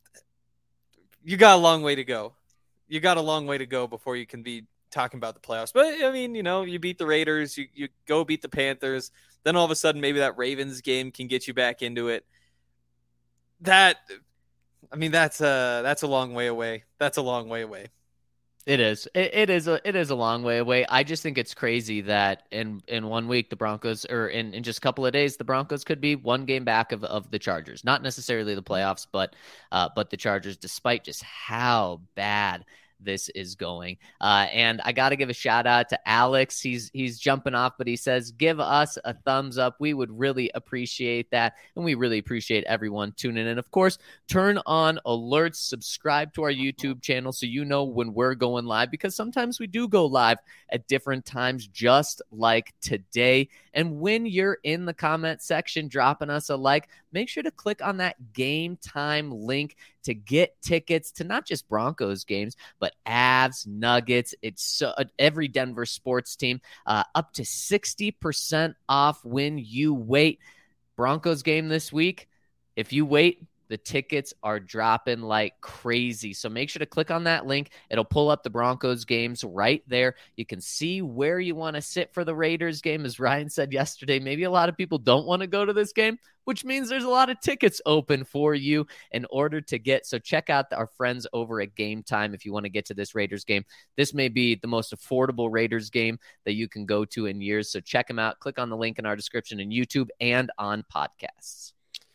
you got a long way to go. You got a long way to go before you can be talking about the playoffs. But I mean, you know, you beat the Raiders, you you go beat the Panthers. Then all of a sudden, maybe that Ravens game can get you back into it. That, I mean, that's a that's a long way away. That's a long way away. It is. It, it is. A, it is a long way away. I just think it's crazy that in, in one week the Broncos, or in, in just a couple of days, the Broncos could be one game back of, of the Chargers. Not necessarily the playoffs, but uh, but the Chargers, despite just how bad this is going. Uh, and I got to give a shout out to Alex. He's he's jumping off, but he says, give us a thumbs up. We would really appreciate that. And we really appreciate everyone tuning in. Of course, turn on alerts, subscribe to our YouTube channel so you know when we're going live, because sometimes we do go live at different times, just like today. And when you're in the comment section dropping us a like, make sure to click on that Game Time link to get tickets to not just Broncos games, but Avs, Nuggets. It's so, every Denver sports team, uh, up to sixty percent off when you wait. Broncos game this week. If you wait, the tickets are dropping like crazy. So make sure to click on that link. It'll pull up the Broncos games right there. You can see where you want to sit for the Raiders game. As Ryan said yesterday, maybe a lot of people don't want to go to this game, which means there's a lot of tickets open for you in order to get. So check out our friends over at Game Time if you want to get to this Raiders game. This may be the most affordable Raiders game that you can go to in years. So check them out. Click on the link in our description in YouTube and on podcasts.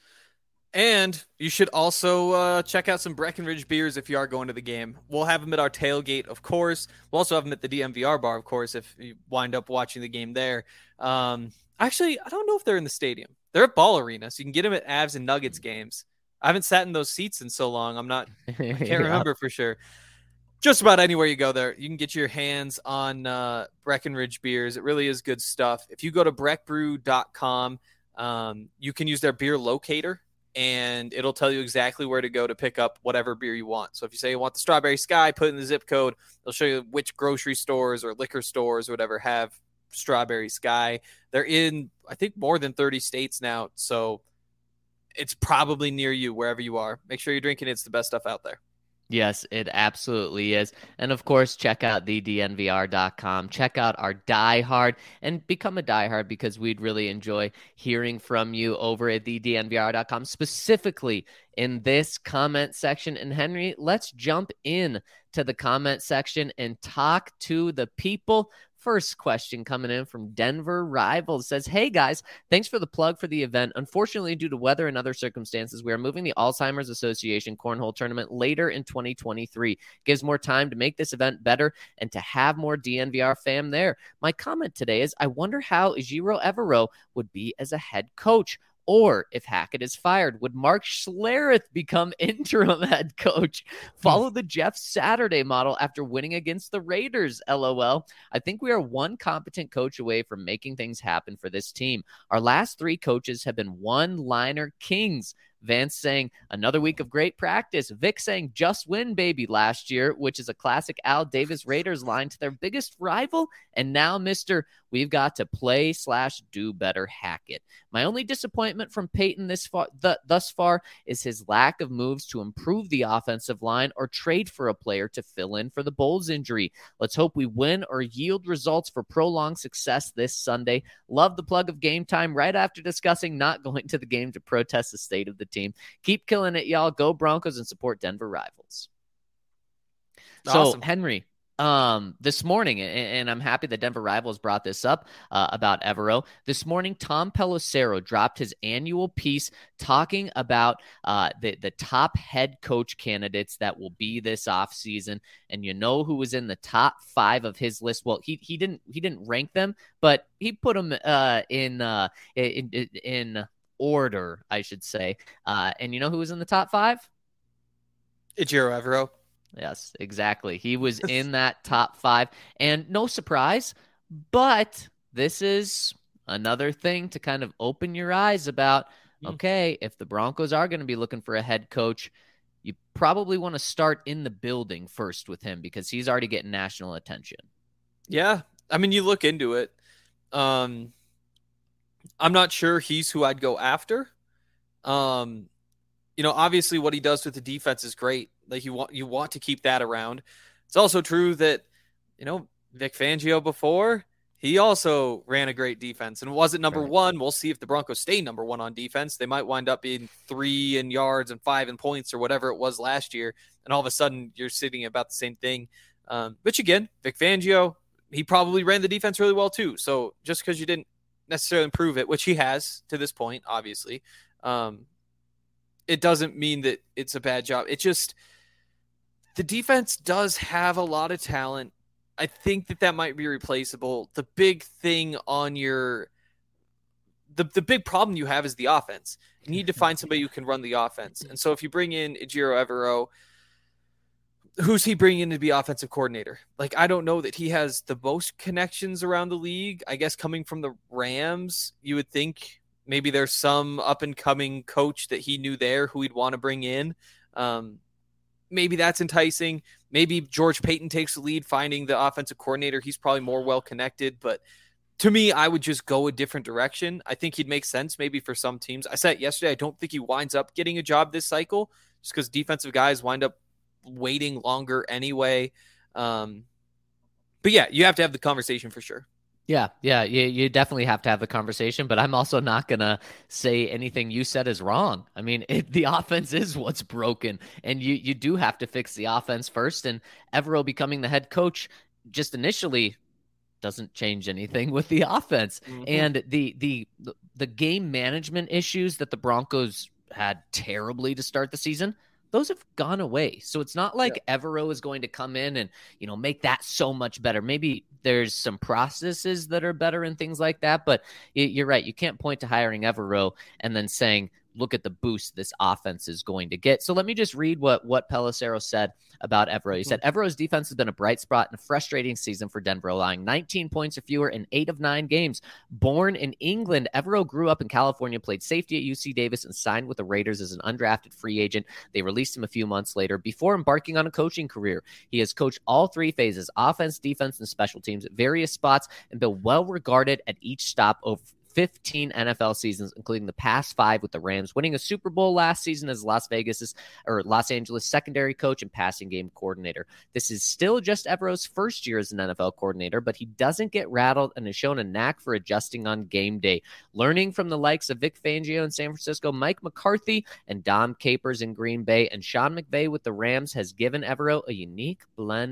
And you should also uh, check out some Breckenridge beers if you are going to the game. We'll have them at our tailgate, of course. We'll also have them at the D M V R bar, of course, if you wind up watching the game there. Um, actually, I don't know if they're in the stadium. They're at Ball Arena, so you can get them at Avs and Nuggets games. I haven't sat in those seats in so long. I'm not, I can't yeah. remember for sure. Just about anywhere you go there, you can get your hands on uh, Breckenridge beers. It really is good stuff. If you go to breck brew dot com, um, you can use their beer locator, and it'll tell you exactly where to go to pick up whatever beer you want. So if you say you want the Strawberry Sky, put in the zip code. It'll show you which grocery stores or liquor stores or whatever have Strawberry Sky. They're in, I think, more than thirty states now, so it's probably near you wherever you are. Make sure you're drinking it. It's the best stuff out there. Yes, it absolutely is. And of course, check out the D N V R dot com. Check out our Die Hard and become a Die Hard, because we'd really enjoy hearing from you over at the D N V R dot com, specifically in this comment section. And Henry, let's jump in to the comment section and talk to the people. First question coming in from Denver Rivals says, hey guys, thanks for the plug for the event. Unfortunately, due to weather and other circumstances, we are moving the Alzheimer's Association Cornhole Tournament later in twenty twenty-three. Gives more time to make this event better and to have more D N V R fam there. My comment today is, I wonder how Ejiro Evero would be as a head coach. Or if Hackett is fired, would Mark Schlereth become interim head coach? Follow the Jeff Saturday model after winning against the Raiders, LOL. I think we are one competent coach away from making things happen for this team. Our last three coaches have been one-liner kings. Vance saying, another week of great practice. Vic saying, just win, baby, last year, which is a classic Al Davis Raiders line to their biggest rival. And now, Mister We've got to play slash do better Hackett. My only disappointment from Peyton this far, th- thus far is his lack of moves to improve the offensive line or trade for a player to fill in for the Bowles injury. Let's hope we win or yield results for prolonged success this Sunday. Love the plug of Game Time right after discussing not going to the game to protest the state of the team. Keep killing it, y'all. Go Broncos and support Denver Rivals. Awesome. So, Henry, um, this morning, and, and I'm happy that Denver Rivals brought this up uh, about Evero. This morning, Tom Pelissero dropped his annual piece talking about uh, the, the top head coach candidates that will be this offseason. And you know who was in the top five of his list? Well, he he didn't he didn't rank them, but he put them uh, in, uh, in in in order, I should say. Uh, and you know who was in the top five? Ejiro Evero. Yes, exactly. He was in that top five, and no surprise, but this is another thing to kind of open your eyes about, okay, if the Broncos are going to be looking for a head coach, you probably want to start in the building first with him because he's already getting national attention. Yeah. I mean, you look into it. Um, I'm not sure he's who I'd go after. Um, you know, obviously what he does with the defense is great. Like you want, you want to keep that around. It's also true that, you know, Vic Fangio before, he also ran a great defense and wasn't number Right. one. We'll see if the Broncos stay number one on defense. They might wind up being three in yards and five in points or whatever it was last year. And all of a sudden you're sitting about the same thing. Um, which again, Vic Fangio, he probably ran the defense really well too. So just because you didn't necessarily improve it, which he has to this point, obviously, um, it doesn't mean that it's a bad job. It just, the defense does have a lot of talent. I think that that might be replaceable. The big thing on your, the, the big problem you have is the offense. You need to find somebody who can run the offense. And so if you bring in Ejiro Evero, who's he bringing in to be offensive coordinator? Like, I don't know that he has the most connections around the league. I guess coming from the Rams, you would think maybe there's some up and coming coach that he knew there who he'd want to bring in. Um, maybe that's enticing. Maybe George Payton takes the lead, finding the offensive coordinator. He's probably more well connected, but to me, I would just go a different direction. I think he'd make sense maybe for some teams. I said yesterday, I don't think he winds up getting a job this cycle just because defensive guys wind up waiting longer anyway. Um, but yeah, you have to have the conversation for sure. Yeah, yeah, you, you definitely have to have the conversation, but I'm also not going to say anything you said is wrong. I mean, it, the offense is what's broken, and you, you do have to fix the offense first, and Evero becoming the head coach just initially doesn't change anything with the offense. Mm-hmm. And the, the the game management issues that the Broncos had terribly to start the season, those have gone away. So it's not like yeah. Evero is going to come in and, you know, make that so much better. Maybe there's some processes that are better and things like that, but you're right. You can't point to hiring Evero and then saying, look at the boost this offense is going to get. So let me just read what, what Pelissero said about Evero. He said, Evero's defense has been a bright spot in a frustrating season for Denver, allowing nineteen points or fewer in eight of nine games. Born in England, Evero grew up in California, played safety at U C Davis, and signed with the Raiders as an undrafted free agent. They released him a few months later before embarking on a coaching career. He has coached all three phases, offense, defense, and special teams at various spots and been well regarded at each stop over fifteen N F L seasons, including the past five with the Rams, winning a Super Bowl last season as Las Vegas's or Los Angeles secondary coach and passing game coordinator. This is still just Evero's first year as an N F L coordinator, but he doesn't get rattled and has shown a knack for adjusting on game day. Learning from the likes of Vic Fangio in San Francisco, Mike McCarthy and Dom Capers in Green Bay, and Sean McVay with the Rams has given Evero a unique blend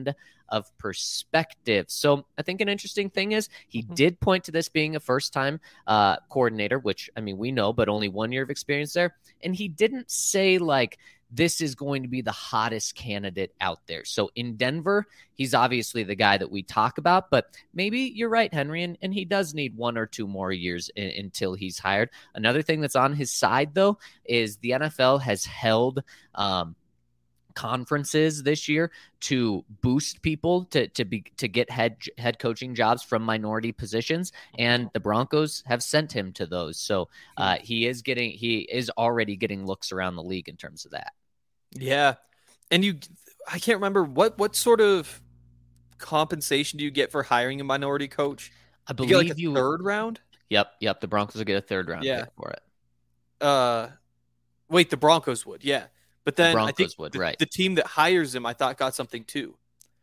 of perspective. So I think an interesting thing is he mm-hmm. did point to this being a first-time uh, coordinator, which, I mean, we know, but only one year of experience there. And he didn't say, like, this is going to be the hottest candidate out there. So in Denver, he's obviously the guy that we talk about, but maybe you're right, Henry, and, and he does need one or two more years in, until he's hired. Another thing that's on his side, though, is the N F L has held um, conferences this year to boost people to to be to get head head coaching jobs from minority positions, and the Broncos have sent him to those. So uh, he is getting he is already getting looks around the league in terms of that. Yeah, and you, I can't remember what what sort of compensation do you get for hiring a minority coach? I believe you get like a you third round. Yep, yep. The Broncos will get a third round yeah. pick for it. Uh, wait, the Broncos would, yeah. But then the I think would, the, right. the team that hires him, I thought, got something too.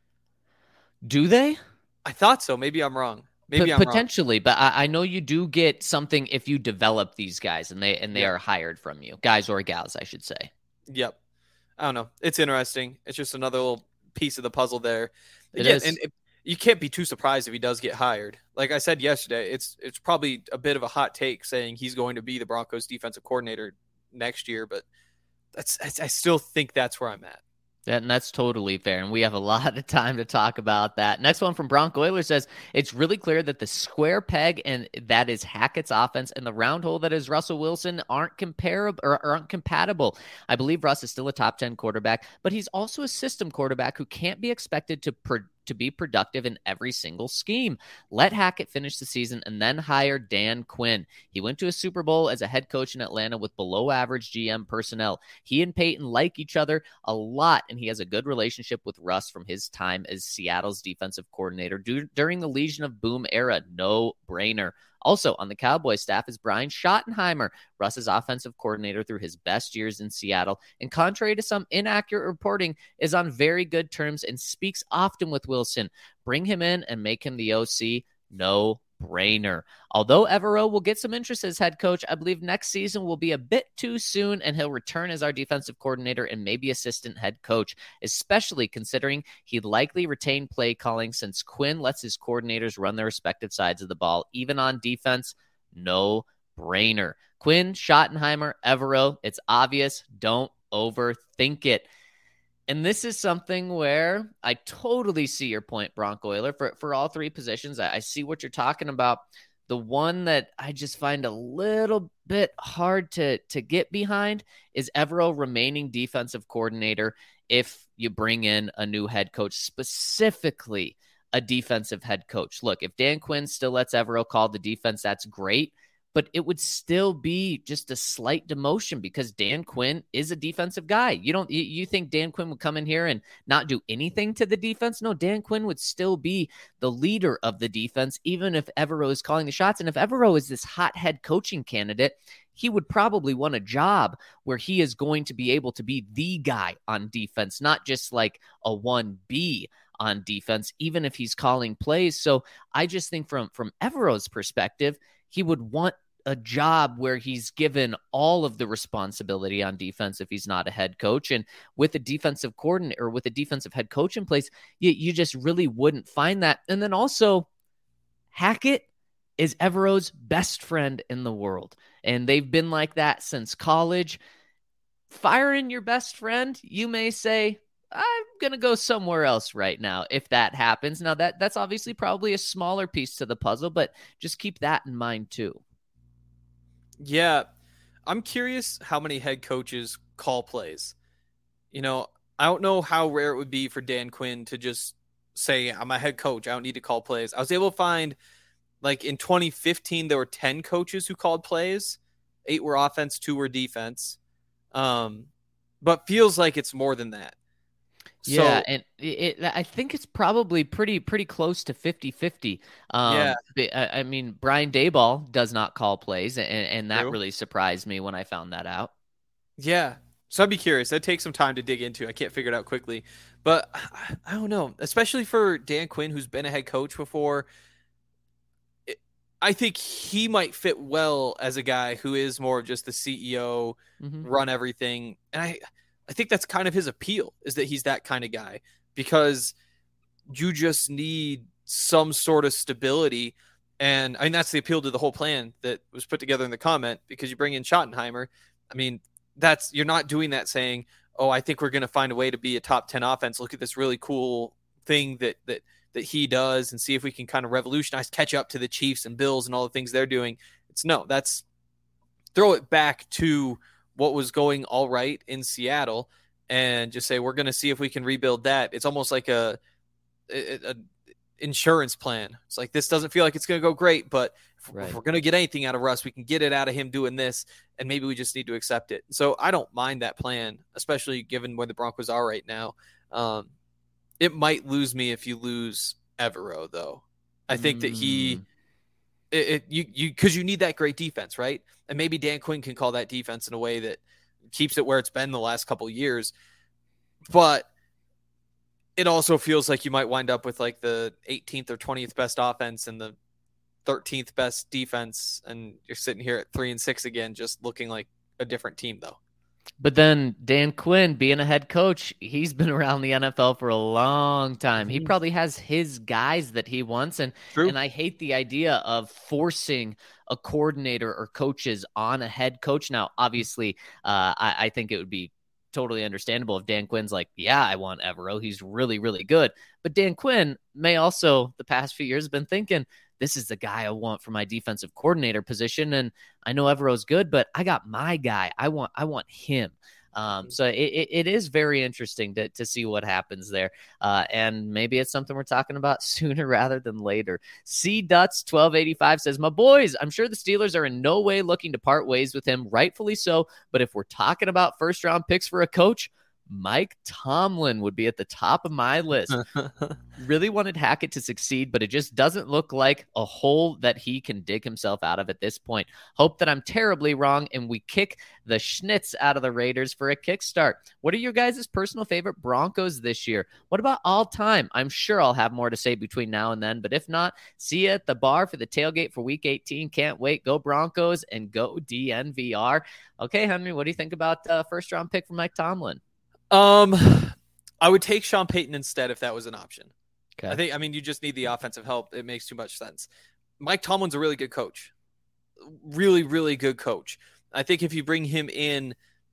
Do they? I thought so. Maybe I'm wrong. Maybe P- I'm potentially, wrong. But I, I know you do get something if you develop these guys and they and they yeah. are hired from you, guys or gals, I should say. Yep. I don't know. It's interesting. It's just another little piece of the puzzle there. It yeah, is. And it, you can't be too surprised if he does get hired. Like I said yesterday, it's it's probably a bit of a hot take saying he's going to be the Broncos defensive coordinator next year, but that's I still think that's where I'm at. And that's totally fair. And we have a lot of time to talk about that. Next one from Bronco Oiler says, it's really clear that the square peg and that is Hackett's offense and the round hole that is Russell Wilson aren't comparable or aren't compatible. I believe Russ is still a top ten quarterback, but he's also a system quarterback who can't be expected to pro- to be productive in every single scheme. Let Hackett finish the season and then hire Dan Quinn. He went to a Super Bowl as a head coach in Atlanta with below average G M personnel. He and Peyton like each other a lot, and he has a good relationship with Russ from his time as Seattle's defensive coordinator du- during the Legion of Boom era. No brainer. Also on the Cowboys staff is Brian Schottenheimer, Russ's offensive coordinator through his best years in Seattle, and contrary to some inaccurate reporting, is on very good terms and speaks often with Wilson. Bring him in and make him the O C. No brainer. Although Evero will get some interest as head coach, I believe next season will be a bit too soon, and he'll return as our defensive coordinator and maybe assistant head coach, especially considering he'd likely retain play calling since Quinn lets his coordinators run their respective sides of the ball, even on defense. No brainer. Quinn, Schottenheimer, Evero, it's obvious. Don't overthink it. And this is something where I totally see your point, Bronco Oiler, for, for all three positions. I, I see what you're talking about. The one that I just find a little bit hard to, to get behind is Evero remaining defensive coordinator if you bring in a new head coach, specifically a defensive head coach. Look, if Dan Quinn still lets Evero call the defense, that's great. But it would still be just a slight demotion because Dan Quinn is a defensive guy. You don't, you, you think Dan Quinn would come in here and not do anything to the defense? No, Dan Quinn would still be the leader of the defense, even if Evero is calling the shots. And if Evero is this hot head coaching candidate, he would probably want a job where he is going to be able to be the guy on defense, not just like a one B on defense, even if he's calling plays. So I just think from, from Evero's perspective, he would want a job where he's given all of the responsibility on defense if he's not a head coach. And with a defensive coordinator or with a defensive head coach in place, you, you just really wouldn't find that. And then also Hackett is Evero's best friend in the world. And they've been like that since college. Firing your best friend, you may say, I'm going to go somewhere else right now if that happens. Now that that's obviously probably a smaller piece to the puzzle, but just keep that in mind too. Yeah, I'm curious how many head coaches call plays. You know, I don't know how rare it would be for Dan Quinn to just say, I'm a head coach, I don't need to call plays. I was able to find, like, in twenty fifteen, there were ten coaches who called plays. Eight were offense, two were defense. Um, but feels like it's more than that. Yeah, so, and it, it, I think it's probably pretty pretty close to fifty-fifty. Um, yeah. I, I mean, Brian Daboll does not call plays, and, and that True. really surprised me when I found that out. Yeah, so I'd be curious. That'd take some time to dig into. I can't figure it out quickly. But I, I don't know, especially for Dan Quinn, who's been a head coach before. It, I think he might fit well as a guy who is more of just the C E O, mm-hmm. run everything. And I... I think that's kind of his appeal, is that he's that kind of guy, because you just need some sort of stability. And I mean, that's the appeal to the whole plan that was put together in the comment, because you bring in Schottenheimer. I mean, that's, you're not doing that saying, oh, I think we're going to find a way to be a top ten offense. Look at this really cool thing that, that, that he does, and see if we can kind of revolutionize, catch up to the Chiefs and Bills and all the things they're doing. It's no, that's throw it back to what was going all right in Seattle and just say, we're going to see if we can rebuild that. It's almost like a, a, a insurance plan. It's like, this doesn't feel like it's going to go great, but if, right. if we're going to get anything out of Russ, we can get it out of him doing this, and maybe we just need to accept it. So I don't mind that plan, especially given where the Broncos are right now. Um, it might lose me if you lose Evero, though. I think mm. that he, it, it you you because you need that great defense, right? And maybe Dan Quinn can call that defense in a way that keeps it where it's been the last couple of years. But it also feels like you might wind up with like the eighteenth or twentieth best offense and the thirteenth best defense, and you're sitting here at three and six again, just looking like a different team, though. But then Dan Quinn, being a head coach, he's been around the N F L for a long time. He probably has his guys that he wants. And, True. and I hate the idea of forcing a coordinator or coaches on a head coach. Now, obviously, uh, I, I think it would be totally understandable if Dan Quinn's like, yeah, I want Evero. He's really, really good. But Dan Quinn may also, the past few years, have been thinking, this is the guy I want for my defensive coordinator position. And I know Evero's good, but I got my guy. I want, I want him. Um, so it, it, it is very interesting to, to see what happens there. Uh, and maybe it's something we're talking about sooner rather than later. C Duts twelve eighty-five says, my boys, I'm sure the Steelers are in no way looking to part ways with him, rightfully so. But if we're talking about first round picks for a coach, Mike Tomlin would be at the top of my list. Really wanted Hackett to succeed, but it just doesn't look like a hole that he can dig himself out of at this point. Hope that I'm terribly wrong and we kick the schnitz out of the Raiders for a kickstart. What are your guys' personal favorite Broncos this year? What about all time? I'm sure I'll have more to say between now and then, but if not, see you at the bar for the tailgate for week eighteen. Can't wait. Go Broncos and go D N V R. Okay, Henry, what do you think about uh, first round pick for Mike Tomlin? Um, I would take Sean Payton instead if that was an option. Okay. I think, I mean, you just need the offensive help. It makes too much sense. Mike Tomlin's a really good coach. Really, really good coach. I think if you bring him in,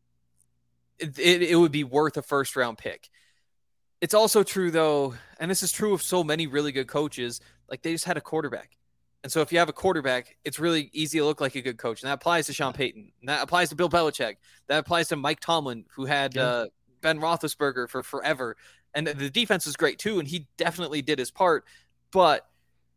it, it, it would be worth a first round pick. It's also true, though, and this is true of so many really good coaches, like they just had a quarterback. And so if you have a quarterback, it's really easy to look like a good coach. And that applies to Sean Payton. And that applies to Bill Belichick. That applies to Mike Tomlin, who had yeah. uh, Ben Roethlisberger for forever. And the defense was great too, and he definitely did his part. But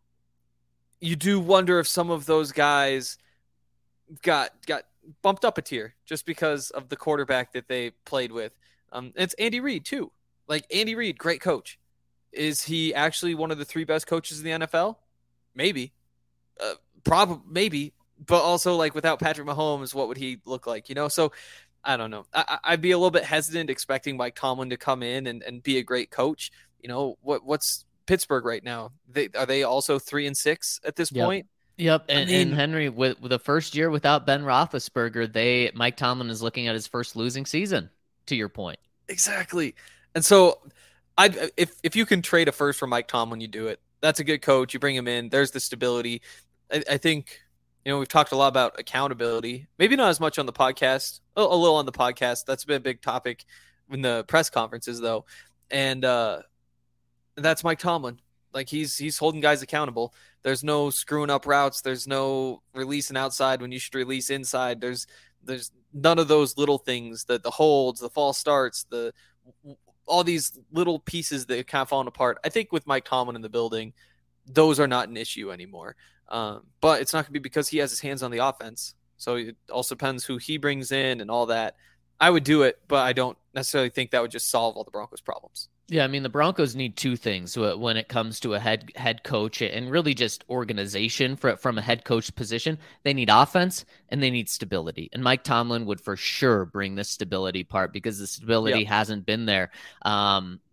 you do wonder if some of those guys got got bumped up a tier just because of the quarterback that they played with. Um, it's Andy Reid too. Like Andy Reid, great coach. Is he actually one of the three best coaches in the N F L? Maybe. Uh, probably, maybe. But also, like, without Patrick Mahomes, what would he look like? You know, so I don't know. I, I'd be a little bit hesitant expecting Mike Tomlin to come in and, and be a great coach. You know, what what's Pittsburgh right now? They are they also three and six at this yep. point? Yep. And, I mean, and Henry, with, with the first year without Ben Roethlisberger, they Mike Tomlin is looking at his first losing season. To your point, exactly. And so, I if if you can trade a first for Mike Tomlin, you do it. That's a good coach. You bring him in. There's the stability. I, I think. You know, we've talked a lot about accountability, maybe not as much on the podcast, a, a little on the podcast. That's been a big topic in the press conferences, though. And uh, that's Mike Tomlin. Like, he's he's holding guys accountable. There's no screwing up routes. There's no releasing outside when you should release inside. There's there's none of those little things, the, the holds, the false starts, the all these little pieces that are kind of falling apart. I think with Mike Tomlin in the building, those are not an issue anymore. Um, but it's not going to be because he has his hands on the offense. So it also depends who he brings in and all that. I would do it, but I don't necessarily think that would just solve all the Broncos' problems. Yeah, I mean, the Broncos need two things when it comes to a head head coach and really just organization for, from a head coach position. They need offense and they need stability. And Mike Tomlin would for sure bring the stability part because the stability yep. hasn't been there. Um,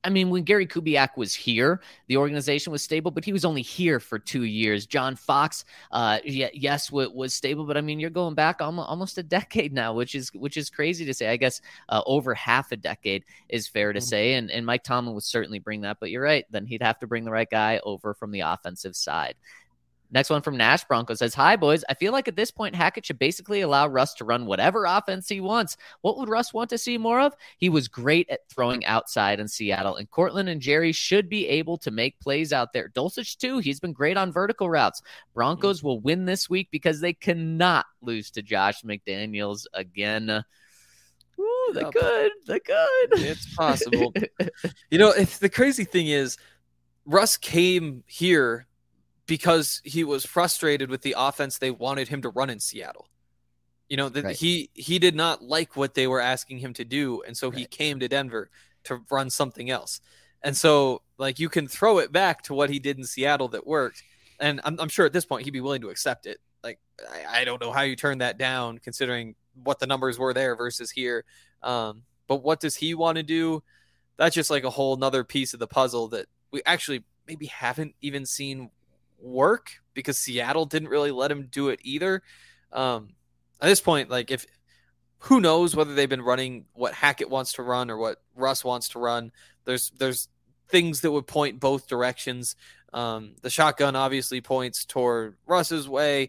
I mean, when Gary Kubiak was here, the organization was stable, but he was only here for two years. John Fox, uh, yeah, yes, w- was stable, but I mean, you're going back almost, almost a decade now, which is which is crazy to say. I guess uh, over half a decade is fair to say, and, and Mike Tomlin would certainly bring that. But you're right, then he'd have to bring the right guy over from the offensive side. Next one from Nash Bronco says, hi, boys. I feel like at this point, Hackett should basically allow Russ to run whatever offense he wants. What would Russ want to see more of? He was great at throwing outside in Seattle, and Cortland and Jerry should be able to make plays out there. Dulcich, too. He's been great on vertical routes. Broncos will win this week because they cannot lose to Josh McDaniels again. Ooh, they Yep. could. They could. It's possible. You know, if the crazy thing is, Russ came here because he was frustrated with the offense they wanted him to run in Seattle. You know, that Right. he he did not like what they were asking him to do, and so he Right. came to Denver to run something else. And so, like, you can throw it back to what he did in Seattle that worked, and I'm, I'm sure at this point he'd be willing to accept it. Like, I, I don't know how you turn that down, considering what the numbers were there versus here. Um, but what does he want to do? That's just like a whole nother piece of the puzzle that we actually maybe haven't even seen work, because Seattle didn't really let him do it either. Um, at this point, like, if who knows whether they've been running what Hackett wants to run or what Russ wants to run. There's there's things that would point both directions. Um, the shotgun obviously points toward Russ's way.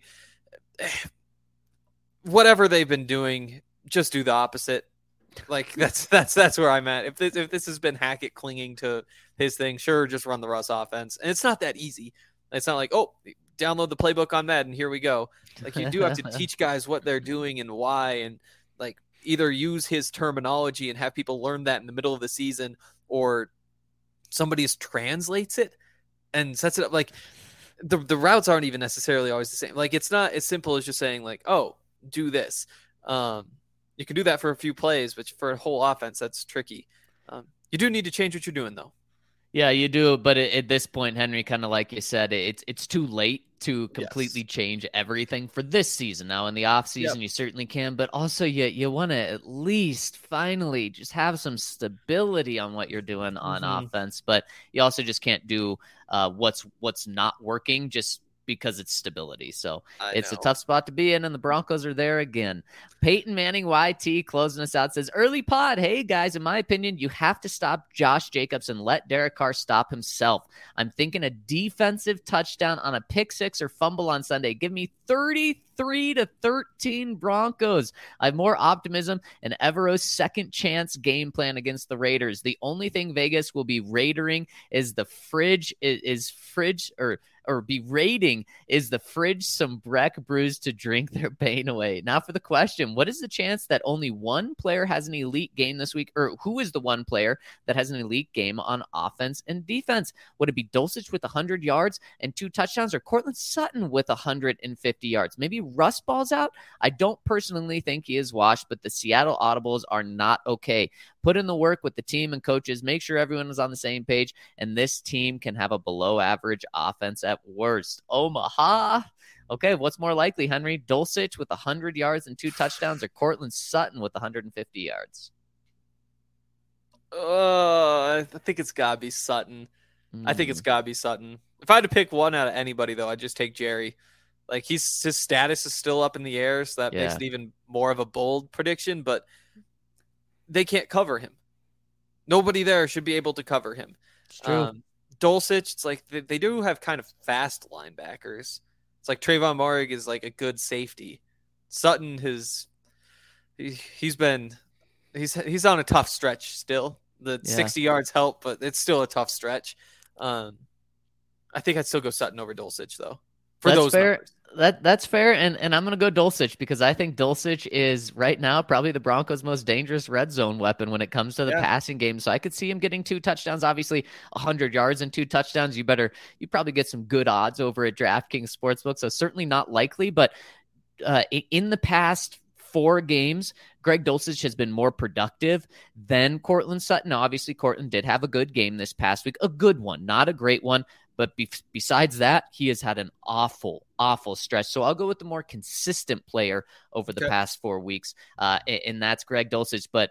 Whatever they've been doing, just do the opposite. Like, that's that's that's where I'm at. If this if this has been Hackett clinging to his thing, sure, just run the Russ offense. And it's not that easy. It's not like, oh, download the playbook on Madden, here we go. Like, you do have to teach guys what they're doing and why, and like either use his terminology and have people learn that in the middle of the season, or somebody just translates it and sets it up. Like, the the routes aren't even necessarily always the same. Like, it's not as simple as just saying like, oh, do this. Um, you can do that for a few plays, but for a whole offense, that's tricky. Um, you do need to change what you're doing, though. Yeah, you do. But at, at this point, Henry, kind of like you said, it's it's too late to completely Yes. change everything for this season. Now, in the off season, Yep. you certainly can, but also you you want to at least finally just have some stability on what you're doing on Mhm. offense. But you also just can't do uh, what's what's not working just because it's stability. So I it's know. a tough spot to be in, and the Broncos are there again. Peyton Manning Y T closing us out says, early pod, hey guys, in my opinion, you have to stop Josh Jacobs and let Derek Carr stop himself. I'm thinking a defensive touchdown on a pick six or fumble on Sunday. Give me thirty-three to thirteen Broncos. I have more optimism in Evero's second chance game plan against the Raiders. The only thing Vegas will be raidering is the fridge is, is fridge or or be raiding is the fridge some Breck brews to drink their pain away. Now for the question, what is the chance that only one player has an elite game this week? Or who is the one player that has an elite game on offense and defense? Would it be Dulcich with one hundred yards and two touchdowns, or Cortland Sutton with one hundred fifty yards? Maybe Russ balls out? I don't personally think he is washed, but the Seattle Audibles are not okay. Put in the work with the team and coaches. Make sure everyone is on the same page, and this team can have a below-average offense at worst. Omaha. Okay, what's more likely, Henry? Dulcich with one hundred yards and two touchdowns, or Cortland Sutton with one hundred fifty yards? Uh, I think it's gotta be Sutton. I think it's gotta be Sutton. If I had to pick one out of anybody, though, I'd just take Jerry. Like, he's his status is still up in the air, so that makes Yeah. it even more of a bold prediction. But they can't cover him. Nobody there should be able to cover him. It's true. Um, Dulcich, it's like they, they do have kind of fast linebackers. It's like Trayvon Moehrig is like a good safety. Sutton has he, he's been he's he's on a tough stretch still. The Yeah. sixty yards help, but it's still a tough stretch. Um, I think I'd still go Sutton over Dulcich though. For That's those fair. numbers. That that's fair, and and I'm gonna go Dulcich because I think Dulcich is right now probably the Broncos' most dangerous red zone weapon when it comes to the Yeah. passing game. So I could see him getting two touchdowns. Obviously, one hundred yards and two touchdowns. You better you probably get some good odds over at DraftKings Sportsbook. So certainly not likely, but uh, i- in the past four games, Greg Dulcich has been more productive than Cortland Sutton. Now, obviously, Cortland did have a good game this past week, a good one, not a great one. But be- besides that, he has had an awful, awful stretch. So I'll go with the more consistent player over the Okay. past four weeks, uh, and, and that's Greg Dulcich. But if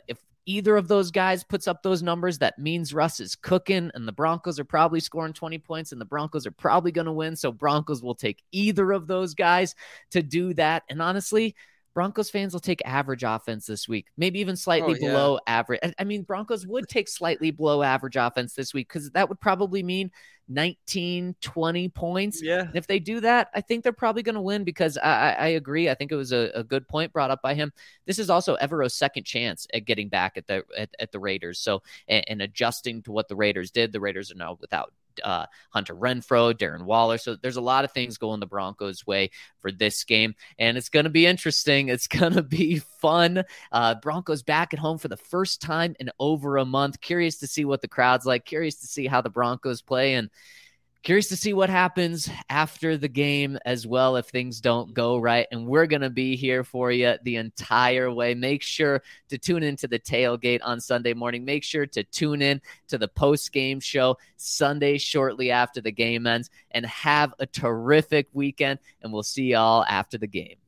either of those guys puts up those numbers, that means Russ is cooking, and the Broncos are probably scoring twenty points, and the Broncos are probably going to win. So Broncos will take either of those guys to do that. And honestly, Broncos fans will take average offense this week, maybe even slightly Oh, yeah. below average. I mean, Broncos would take slightly below average offense this week because that would probably mean nineteen, twenty points. Yeah. And if they do that, I think they're probably going to win because I, I, I agree. I think it was a, a good point brought up by him. This is also Evero's second chance at getting back at the at, at the Raiders. So and, and adjusting to what the Raiders did. The Raiders are now without uh, Hunter Renfrow, Darren Waller. So there's a lot of things going the Broncos' way for this game, and it's going to be interesting. It's going to be fun. Uh, Broncos back at home for the first time in over a month. Curious to see what the crowd's like. Curious to see how the Broncos play, and curious to see what happens after the game as well if things don't go right. And we're going to be here for you the entire way. Make sure to tune into the tailgate on Sunday morning. Make sure to tune in to the post-game show Sunday shortly after the game ends. And have a terrific weekend. And we'll see y'all after the game.